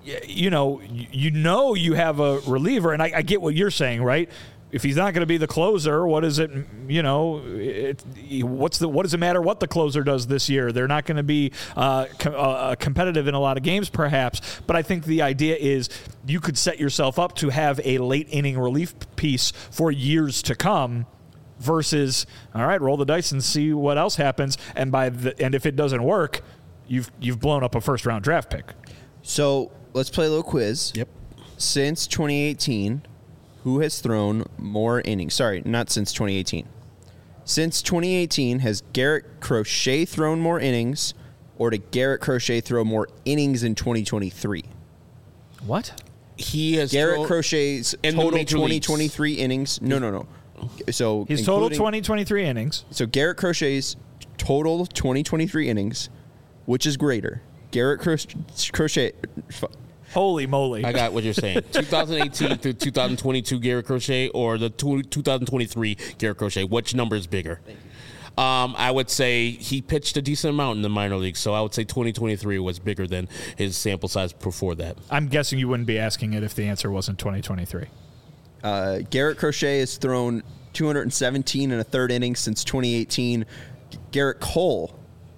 you know, you know you have a reliever, and I, I get what you're saying, right? If he's not going to be the closer, what is it? You know, it, what's the what does it matter what the closer does this year? They're not going to be uh, com- uh, competitive in a lot of games, perhaps. But I think the idea is you could set yourself up to have a late inning relief piece for years to come. Versus, all right, roll the dice and see what else happens. And by the and if it doesn't work, you've you've blown up a first round draft pick. So let's play a little quiz. Yep. Since twenty eighteen. Who has thrown more innings? Sorry, not since twenty eighteen. Since twenty eighteen, has Garrett Crochet thrown more innings, or did Garrett Crochet throw more innings in twenty twenty-three? What? He has Garrett thrown Crochet's total twenty twenty-three innings. No, no, no. So his total twenty twenty-three innings. So Garrett Crochet's total twenty twenty-three innings, which is greater? Garrett Crochet. Holy moly. I got what you're saying. twenty eighteen through two thousand twenty-two Garrett Crochet or the two thousand twenty-three Garrett Crochet? Which number is bigger? Um, I would say he pitched a decent amount in the minor leagues, so I would say twenty twenty-three was bigger than his sample size before that. I'm guessing you wouldn't be asking it if the answer wasn't twenty twenty-three. Uh, Garrett Crochet has thrown two hundred seventeen and a third innings since twenty eighteen. Garrett Cole.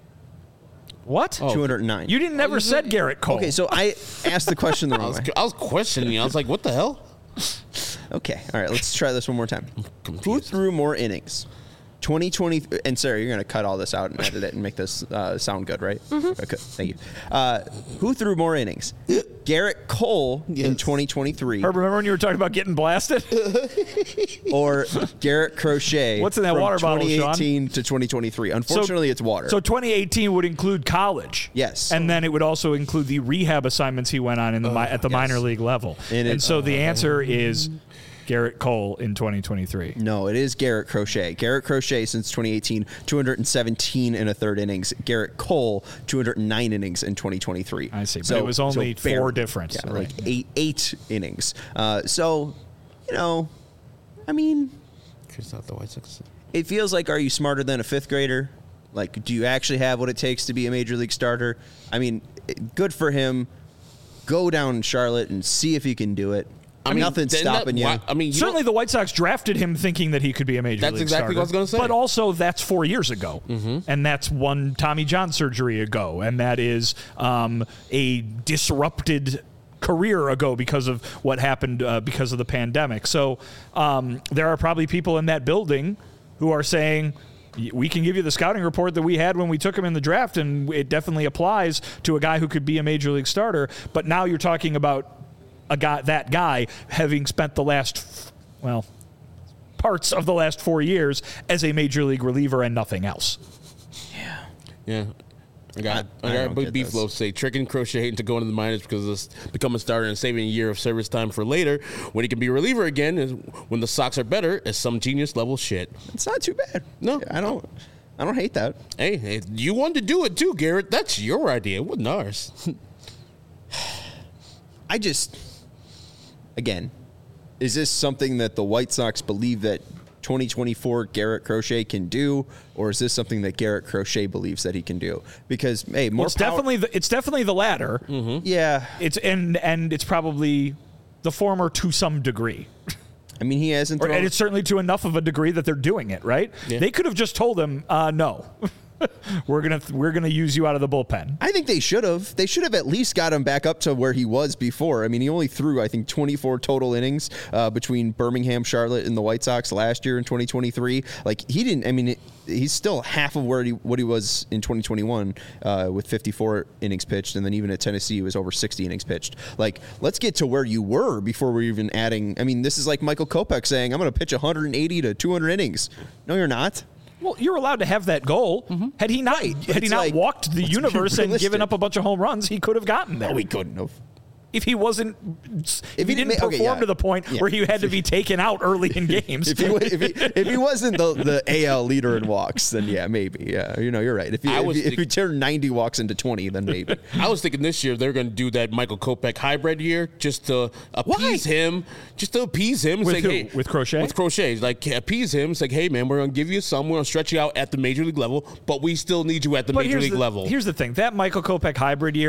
What? two hundred nine. You didn't never oh, said Garrett Cole. Okay, so I asked the question the wrong I was, way. I was questioning you. I was like, what the hell? Okay, all right, let's try this one more time. Who threw more innings? twenty twenty, and Sarah, you're going to cut all this out and edit it and make this uh, sound good, right? Mm-hmm. Okay, thank you. Uh, who threw more innings? Garrett Cole yes. in twenty twenty-three. Herb, remember when you were talking about getting blasted? Or Garrett Crochet. What's in that from water bottle, twenty eighteen to twenty twenty-three. Unfortunately, so, it's water. So twenty eighteen would include college. Yes. And then it would also include the rehab assignments he went on in the uh, at the yes. minor league level. And, and it, so uh, the answer is Garrett Cole in twenty twenty-three. No, it is Garrett Crochet. Garrett Crochet since twenty eighteen, two hundred seventeen and a third innings. Garrett Cole, two hundred nine innings in twenty twenty-three. I see, but so, it was only so four difference. Yeah, right. like eight eight innings. Uh, so, you know, I mean, Chris out the White Sox. It feels like, are you smarter than a fifth grader? Like, do you actually have what it takes to be a major league starter? I mean, good for him. Go down in Charlotte and see if he can do it. I mean, nothing's stopping that, you. Why, I mean, you certainly the White Sox drafted him thinking that he could be a major that's league exactly starter. what I was going to say. But also, that's four years ago, mm-hmm. and that's one Tommy John surgery ago, and that is um, a disrupted career ago because of what happened uh, because of the pandemic. So um, there are probably people in that building who are saying, we can give you the scouting report that we had when we took him in the draft, and it definitely applies to a guy who could be a major league starter. But now you're talking about a guy, that guy having spent the last, well, parts of the last four years as a major league reliever and nothing else. Yeah. Yeah. I got, I, I got Big Beef Loaf say tricking Crochet into going to the minors because of become a starter and saving a year of service time for later when he can be a reliever again is when the Sox are better is some genius level shit. It's not too bad. No, I don't. I don't hate that. Hey, hey you wanted to do it too, Garrett. That's your idea. It wasn't ours. I just, again, is this something that the White Sox believe that twenty twenty-four Garrett Crochet can do, or is this something that Garrett Crochet believes that he can do? Because hey, more well, it's power- definitely the, it's definitely the latter. Mm-hmm. Yeah, it's and and it's probably the former to some degree. I mean, he hasn't, or, thrown- and it's certainly to enough of a degree that they're doing it right. Yeah. They could have just told him, uh, no. We're gonna we're gonna use you out of the bullpen. I think they should have. They should have at least got him back up to where he was before. I mean, he only threw I think twenty-four total innings uh, between Birmingham, Charlotte, and the White Sox last year in twenty twenty-three. Like he didn't. I mean, it, he's still half of where he what he was in twenty twenty-one uh, with fifty-four innings pitched, and then even at Tennessee, he was over sixty innings pitched. Like, let's get to where you were before we're even adding. I mean, this is like Michael Kopech saying, "I'm going to pitch one hundred eighty to two hundred innings." No, you're not. Well, you're allowed to have that goal. Mm-hmm. Had he not, right, had he not like, walked the universe and given up a bunch of home runs, he could have gotten there. No, he couldn't have. If he wasn't, if, if he, he didn't ma- perform okay, yeah. to the point yeah. where he had to be taken out early in games. if, he, if, he, if he wasn't the, the A L leader in walks, then yeah, maybe. Yeah, you know, you're right. If he, if, he, if he turned ninety walks into twenty, then maybe. I was thinking this year they're going to do that Michael Kopech hybrid year just to appease Why? him, just to appease him. With say, who? Hey, with Crochet? With Crochet. Like, appease him. It's like, hey, man, we're going to give you some. We're going to stretch you out at the major league level, but we still need you at the but major league the, level. Here's the thing. That Michael Kopech hybrid year,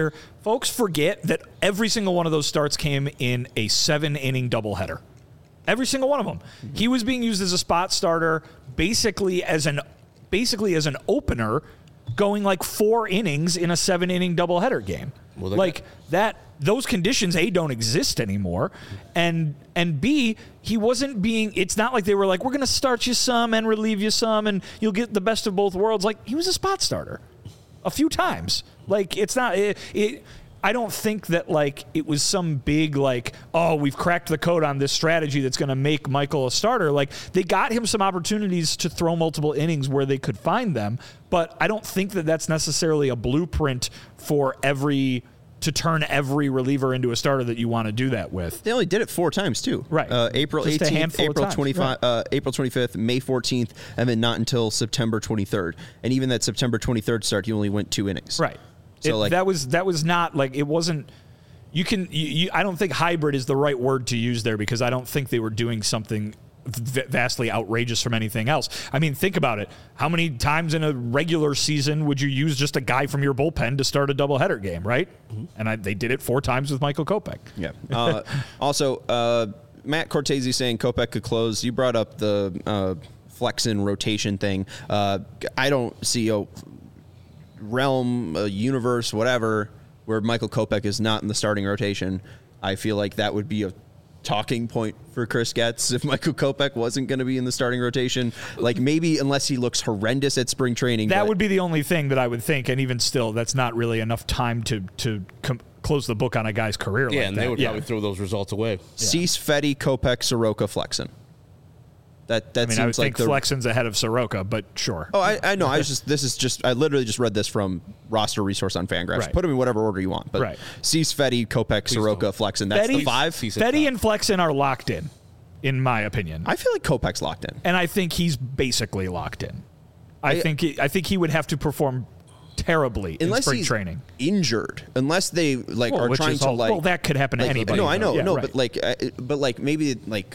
folks forget that every single one of those starts came in a seven-inning doubleheader. Every single one of them. Mm-hmm. He was being used as a spot starter, basically as an basically as an opener, going like four innings in a seven-inning doubleheader game. Well, like got- that. Those conditions, A, don't exist anymore, and and B, he wasn't being, it's not like they were like, we're going to start you some and relieve you some, and you'll get the best of both worlds. Like, he was a spot starter a few times. Like, it's not, it, it I don't think that, like, it was some big, like, oh, we've cracked the code on this strategy that's going to make Michael a starter. Like, they got him some opportunities to throw multiple innings where they could find them, but I don't think that that's necessarily a blueprint for every to turn every reliever into a starter that you want to do that with. They only did it four times too. Right. Uh, April Just eighteenth, April twenty-fifth, right. uh, April twenty-fifth, May fourteenth, and then not until September twenty-third. And even that September twenty-third start, he only went two innings. Right. So it, like that was that was not like it wasn't. You can. You, you, I don't think hybrid is the right word to use there because I don't think they were doing something v- vastly outrageous from anything else. I mean, think about it. How many times in a regular season would you use just a guy from your bullpen to start a doubleheader game, right? Mm-hmm. And I, they did it four times with Michael Kopech. Yeah. Uh, also, uh, Matt Cortese saying Kopech could close. You brought up the uh, Flexen rotation thing. Uh, I don't see a realm, a universe, whatever, where Michael Kopech is not in the starting rotation. I feel like that would be a talking point for Chris Getz if Michael Kopech wasn't going to be in the starting rotation. Like maybe unless he looks horrendous at spring training. That but, would be the only thing that I would think, and even still, that's not really enough time to to com- close the book on a guy's career. Yeah, like and that. they would yeah. probably throw those results away. Yeah. Cease, Fetty, Kopech, Soroka, Flexen. That that I mean, seems I would like think the Flexen's ahead of Soroka, but sure. Oh, I, I know. I was just this is just I literally just read this from roster resource on Fangraphs. Right. Put them in whatever order you want. But right. Cease, Fetty, Kopech, Soroka, don't. Flexen. That's Fetty, the five. Fetty and Flexen are locked in, in my opinion. I feel like Kopech's locked in, and I think he's basically locked in. I, I think he, I think he would have to perform terribly unless in spring he's training. Injured, unless they like well, are which trying is to all, like. Well, that could happen to like, anybody. No, I know, yeah, no, right. but like, uh, but like maybe like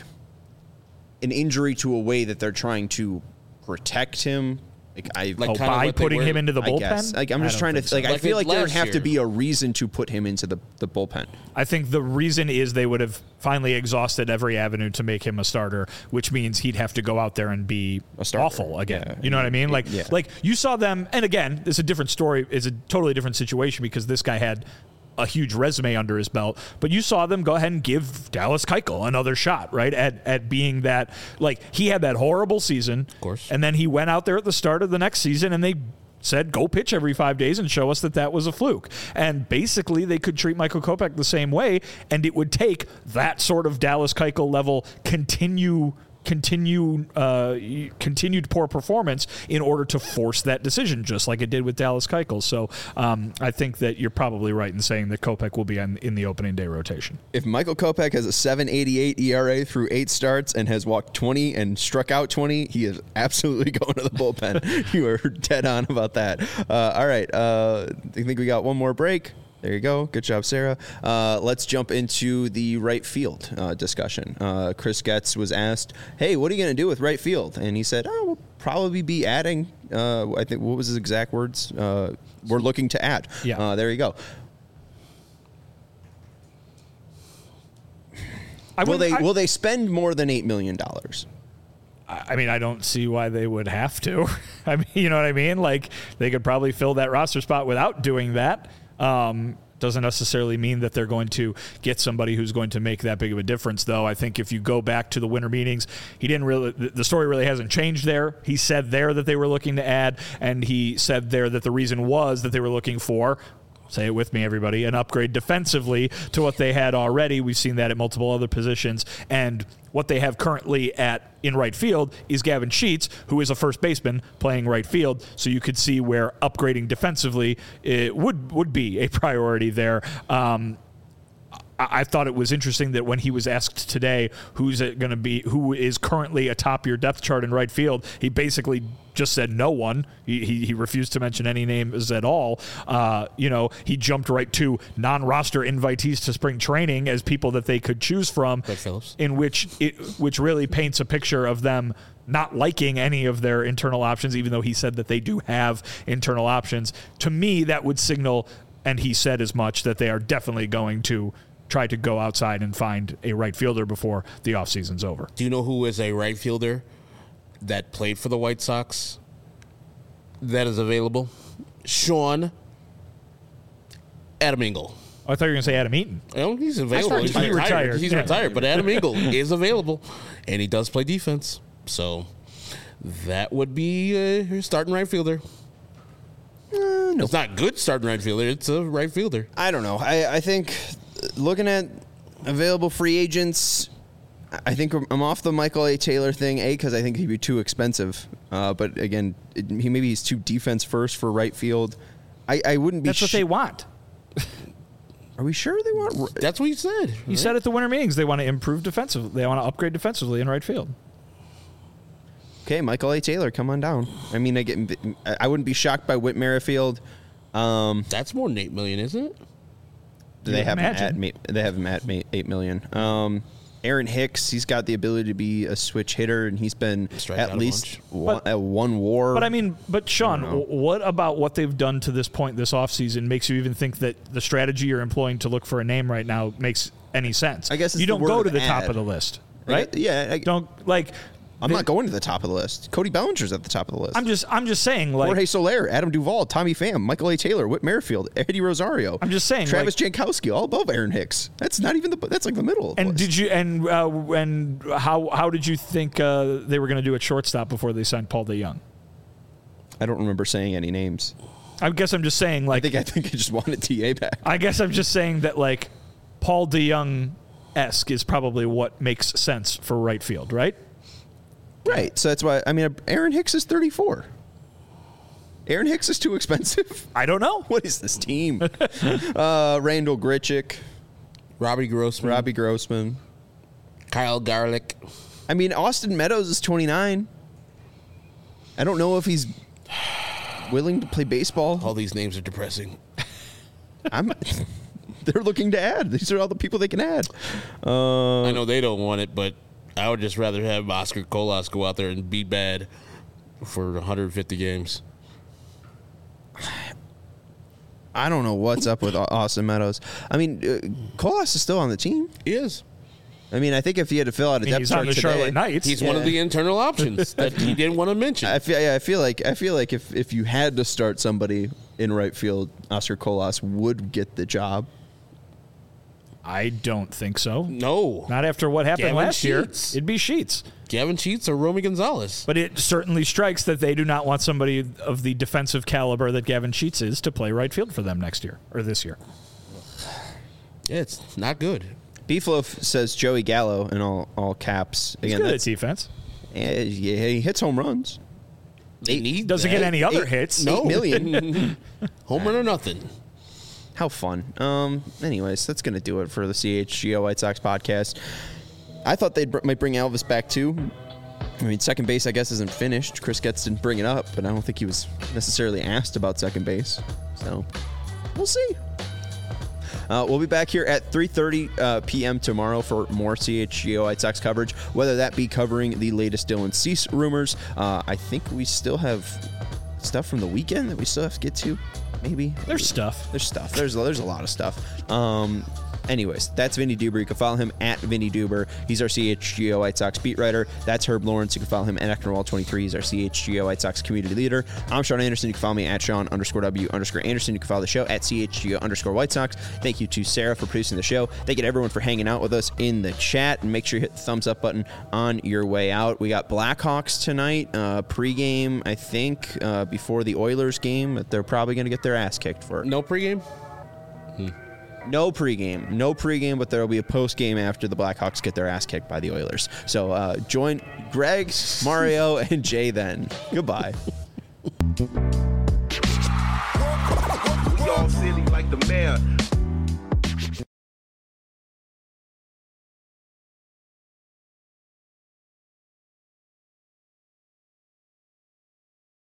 an injury to a way that they're trying to protect him. Like I like oh, by putting him into the bullpen. I guess. Like I'm just trying to so. like, like I feel like there would have year. to be a reason to put him into the, the bullpen. I think the reason is they would have finally exhausted every avenue to make him a starter, which means he'd have to go out there and be awful again. Yeah. You know what I mean? Like yeah. like you saw them, and again, it's a different story. It's a totally different situation because this guy had a huge resume under his belt, but you saw them go ahead and give Dallas Keuchel another shot, right? At at being that, like, he had that horrible season, of course, and then he went out there at the start of the next season, and they said, go pitch every five days and show us that that was a fluke. And basically, they could treat Michael Kopech the same way, and it would take that sort of Dallas Keuchel level continue. Continue, uh, continued poor performance in order to force that decision, just like it did with Dallas Keuchel. So um, I think that you're probably right in saying that Kopech will be in, in the opening day rotation. If Michael Kopech has a seven eighty-eight E R A through eight starts and has walked twenty and struck out twenty, he is absolutely going to the bullpen. You are dead on about that. Uh, all right, uh, I think we got one more break. There you go. Good job, Sarah. Uh, let's jump into the right field uh, discussion. Uh, Chris Getz was asked, hey, what are you going to do with right field? And he said, oh, we'll probably be adding, uh, I think, what was his exact words? Uh, we're looking to add. Yeah. Uh, there you go. I will they I, will they spend more than eight million dollars? I mean, I don't see why they would have to. I mean, you know what I mean? Like, they could probably fill that roster spot without doing that. Um, doesn't necessarily mean that they're going to get somebody who's going to make that big of a difference, though. I think if you go back to the winter meetings, he didn't really, the story really hasn't changed there. He said there that they were looking to add, and he said there that the reason was that they were looking for, say it with me, everybody, an upgrade defensively to what they had already. We've seen that at multiple other positions. And what they have currently at in right field is Gavin Sheets, who is a first baseman playing right field. So you could see where upgrading defensively it would would be a priority there. Um, I thought it was interesting that when he was asked today who's it going to be, who is currently atop your depth chart in right field, he basically just said no one. He he, he refused to mention any names at all. Uh, you know, he jumped right to non-roster invitees to spring training as people that they could choose from, in which it which really paints a picture of them not liking any of their internal options, even though he said that they do have internal options. To me, that would signal and he said as much, that they are definitely going to try to go outside and find a right fielder before the offseason's over. Do you know who is a right fielder that played for the White Sox that is available? Sean Adam Engel. Oh, I thought you were going to say Adam Eaton. Oh, he's available. He's he retired. retired. He's yeah. retired, but Adam Engel is available, and he does play defense. So that would be uh, your starting right fielder. Uh, no. It's not good starting right fielder. It's a right fielder. I don't know. I, I think looking at available free agents, I think I'm off the Michael A. Taylor thing, A, because I think he'd be too expensive. Uh, but again, it, he maybe he's too defense first for right field. I, I wouldn't be. That's what sh- they want. Are we sure they want? That's what he said. He right? said at the winter meetings they want to improve defensively. They want to upgrade defensively in right field. Okay, Michael A. Taylor, come on down. I mean, I get. I wouldn't be shocked by Whit Merrifield. Um, That's more than eight million, isn't it? Do they have him at? They have him at eight million. Um, Aaron Hicks, he's got the ability to be a switch hitter, and he's been Strike at least one, at one WAR. But I mean, but Sean, what about what they've done to this point this offseason makes you even think that the strategy you're employing to look for a name right now makes any sense? I guess it's you don't the go word to the ad. top of the list, right? I, yeah, I, don't like. I'm they, not going to the top of the list. Cody Bellinger's at the top of the list. I'm just, I'm just saying, like Jorge Soler, Adam Duvall, Tommy Pham, Michael A. Taylor, Whit Merrifield, Eddie Rosario. I'm just saying, Travis like, Jankowski, all above Aaron Hicks. That's not even the. That's like the middle. Of the and list. did you and uh, and how how did you think uh, they were going to do at shortstop before they signed Paul DeJong? I don't remember saying any names. I guess I'm just saying, like, I think I think I just wanted T A back. I guess I'm just saying that, like, Paul DeJong-esque is probably what makes sense for right field, right? Right. So that's why, I mean, Aaron Hicks is thirty-four. Aaron Hicks is too expensive? I don't know. What is this team? uh, Randall Grichuk. Robbie Grossman. Robbie Grossman. Kyle Garlick. I mean, Austin Meadows is twenty-nine. I don't know if he's willing to play baseball. All these names are depressing. I'm... They're looking to add. These are all the people they can add. Uh, I know they don't want it, but I would just rather have Oscar Colas go out there and be bad for one hundred fifty games. I don't know what's up with Austin Meadows. I mean, uh, Colas is still on the team. He is. I mean, I think if he had to fill out a I mean, depth he's chart on the today, Charlotte Knights. He's yeah. one of the internal options that he didn't want to mention. I feel, yeah, I feel like I feel like if, if you had to start somebody in right field, Oscar Colas would get the job. I don't think so. No. Not after what happened Gavin last Sheets. year. It'd be Sheets. Gavin Sheets or Romy Gonzalez. But it certainly strikes that they do not want somebody of the defensive caliber that Gavin Sheets is to play right field for them next year or this year. Yeah, it's not good. Beefloaf says Joey Gallo in all, all caps. He's Again, good at that's, defense. yeah, yeah, he hits home runs. They need Doesn't that. get any other Eight- hits. No. Eight million. Home run or nothing. How fun. Um. Anyways, that's going to do it for the C H G O White Sox podcast. I thought they br- might bring Elvis back too. I mean, second base, I guess, isn't finished. Chris Getz didn't bring it up, but I don't think he was necessarily asked about second base. So, we'll see. Uh, we'll be back here at three thirty uh, p.m. tomorrow for more C H G O White Sox coverage, whether that be covering the latest Dylan Cease rumors. Uh, I think we still have stuff from the weekend that we still have to get to. Maybe. There's stuff. There's stuff. There's there's a lot of stuff. Um, anyways, that's Vinny Duber. You can follow him at Vinny Duber. He's our C H G O White Sox beat writer. That's Herb Lawrence. You can follow him at Ecknerwall twenty-three. He's our C H G O White Sox community leader. I'm Sean Anderson. You can follow me at Sean underscore W underscore Anderson. You can follow the show at C H G O underscore White Sox. Thank you to Sarah for producing the show. Thank you to everyone for hanging out with us in the chat. And make sure you hit the thumbs up button on your way out. We got Blackhawks tonight, uh, pregame, I think, uh, before the Oilers game. But they're probably going to get their ass kicked for it. No pregame? Hmm. No pregame. No pregame, but there will be a postgame after the Blackhawks get their ass kicked by the Oilers. So uh, join Greg, Mario, and Jay then. Goodbye. Y'all silly like the mayor.